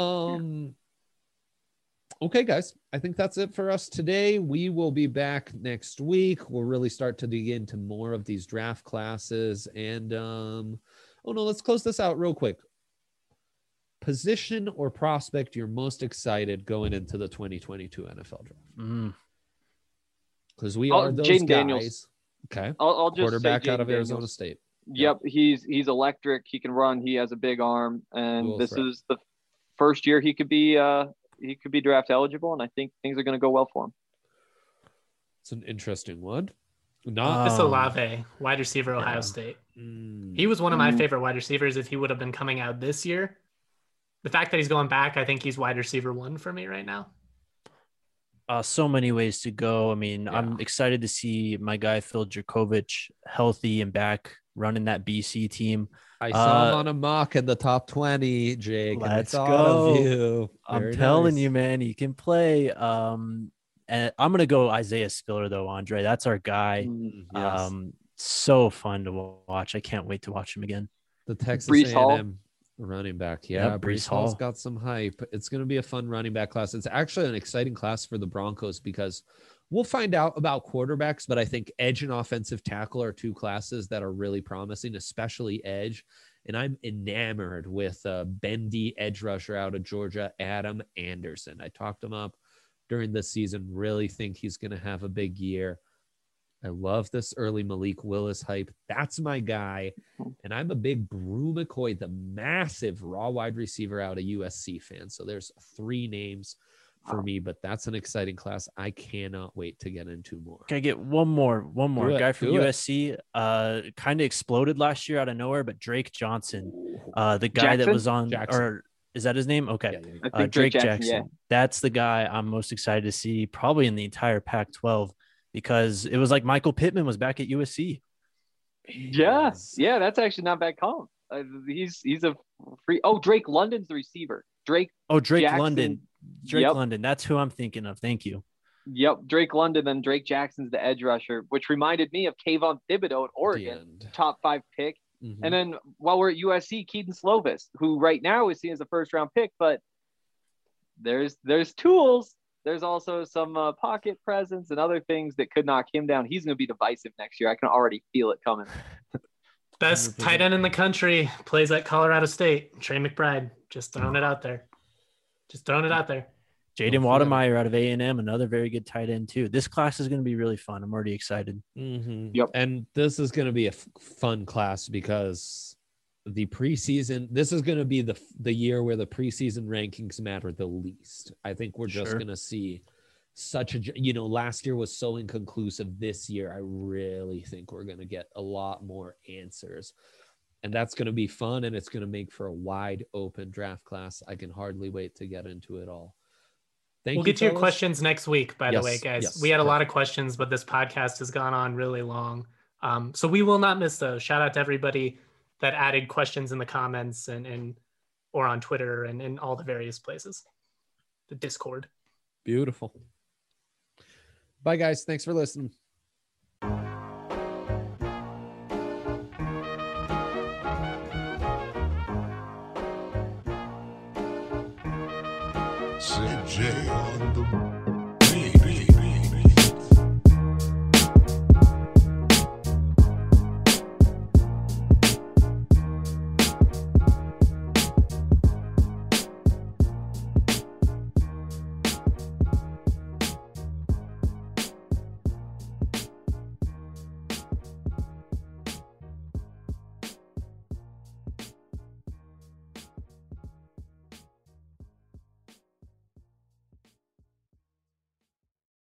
Speaker 2: Okay, guys, I think that's it for us today. We will be back next week. We'll really start to dig into more of these draft classes. And, let's close this out real quick. Position or prospect you're most excited going into the 2022 NFL draft? Because we are those
Speaker 1: Jaden
Speaker 2: guys.
Speaker 1: Daniels.
Speaker 2: Okay.
Speaker 1: I'll just
Speaker 2: quarterback out of
Speaker 1: Daniels.
Speaker 2: Arizona State.
Speaker 1: Yep, he's electric. He can run. He has a big arm, and this is the first year he could be draft eligible, and I think things are going to go well for him.
Speaker 2: It's an interesting one.
Speaker 3: It's Olave, wide receiver, Ohio State. He was one of my favorite wide receivers if he would have been coming out this year. The fact that he's going back, I think he's wide receiver 1 for me right now.
Speaker 4: So many ways to go. I mean, I'm excited to see my guy Phil Dracovic healthy and back running that BC team.
Speaker 2: I saw him on a mock in the top 20, Jake.
Speaker 4: Let's
Speaker 2: go.
Speaker 4: I'm telling you, man, he can play. And And I'm gonna go Isaiah Spiller though, Andre. That's our guy.
Speaker 2: Yes.
Speaker 4: So fun to watch. I can't wait to watch him again.
Speaker 2: The Texas
Speaker 1: Breece Hall.
Speaker 2: A&M running back. Yeah,
Speaker 4: Yep,
Speaker 2: Breece
Speaker 4: Breece
Speaker 2: Hall's
Speaker 4: Hall.
Speaker 2: got some hype. It's going to be a fun running back class. It's actually an exciting class for the Broncos because we'll find out about quarterbacks, but I think edge and offensive tackle are two classes that are really promising, especially edge. And I'm enamored with bendy edge rusher out of Georgia, Adam Anderson. I talked him up during the season. Really think he's going to have a big year. I love this early Malik Willis hype. That's my guy. And I'm a big Brew McCoy, the massive raw wide receiver out of USC fan. So there's 3 names for me, but that's an exciting class. I cannot wait to get into more.
Speaker 4: Can I get one more
Speaker 2: Do it,
Speaker 4: guy from
Speaker 2: do it.
Speaker 4: USC? Kind of exploded last year out of nowhere, but Drake Johnson, the guy that
Speaker 1: Jackson?
Speaker 4: was on,
Speaker 2: Jackson.
Speaker 4: or is that his name? Okay.
Speaker 2: Yeah, yeah, yeah.
Speaker 1: I think
Speaker 4: Drake Jackson.
Speaker 1: Yeah.
Speaker 4: That's the guy I'm most excited to see probably in the entire Pac-12 because it was like Michael Pittman was back at USC.
Speaker 1: Yes. Yeah, that's actually not bad comp. He's a free. Oh, Drake London's the receiver. Drake Jackson.
Speaker 4: London.
Speaker 1: Yep.
Speaker 4: London. That's who I'm thinking of. Thank you.
Speaker 1: Yep, Drake London, then Drake Jackson's the edge rusher, which reminded me of Kayvon Thibodeau at Oregon, top 5 pick.
Speaker 2: Mm-hmm.
Speaker 1: And then while we're at USC, Keaton Slovis, who right now is seen as a first-round pick, but there's tools. There's also some pocket presence and other things that could knock him down. He's going to be divisive next year. I can already feel it coming.
Speaker 3: Best tight end in the country, plays at Colorado State. Trey McBride. Just throwing it out there.
Speaker 4: Jaden Wademeyer out of A&M, another very good tight end too. This class is going to be really fun. I'm already excited.
Speaker 2: Mm-hmm.
Speaker 1: Yep.
Speaker 2: And this is going to be a fun class because the preseason, this is going to be the year where the preseason rankings matter the least. I think we're just going to see such a, last year was so inconclusive. This year, I really think we're going to get a lot more answers. And that's going to be fun, and it's going to make for a wide open draft class. I can hardly wait to get into it all.
Speaker 3: We'll get to your questions next week, by the way, guys.
Speaker 2: Yes,
Speaker 3: we had a lot of questions, but this podcast has gone on really long. So we will not miss those. Shout out to everybody that added questions in the comments and or on Twitter and in all the various places. The Discord.
Speaker 2: Beautiful. Bye, guys. Thanks for listening.
Speaker 5: CJ on the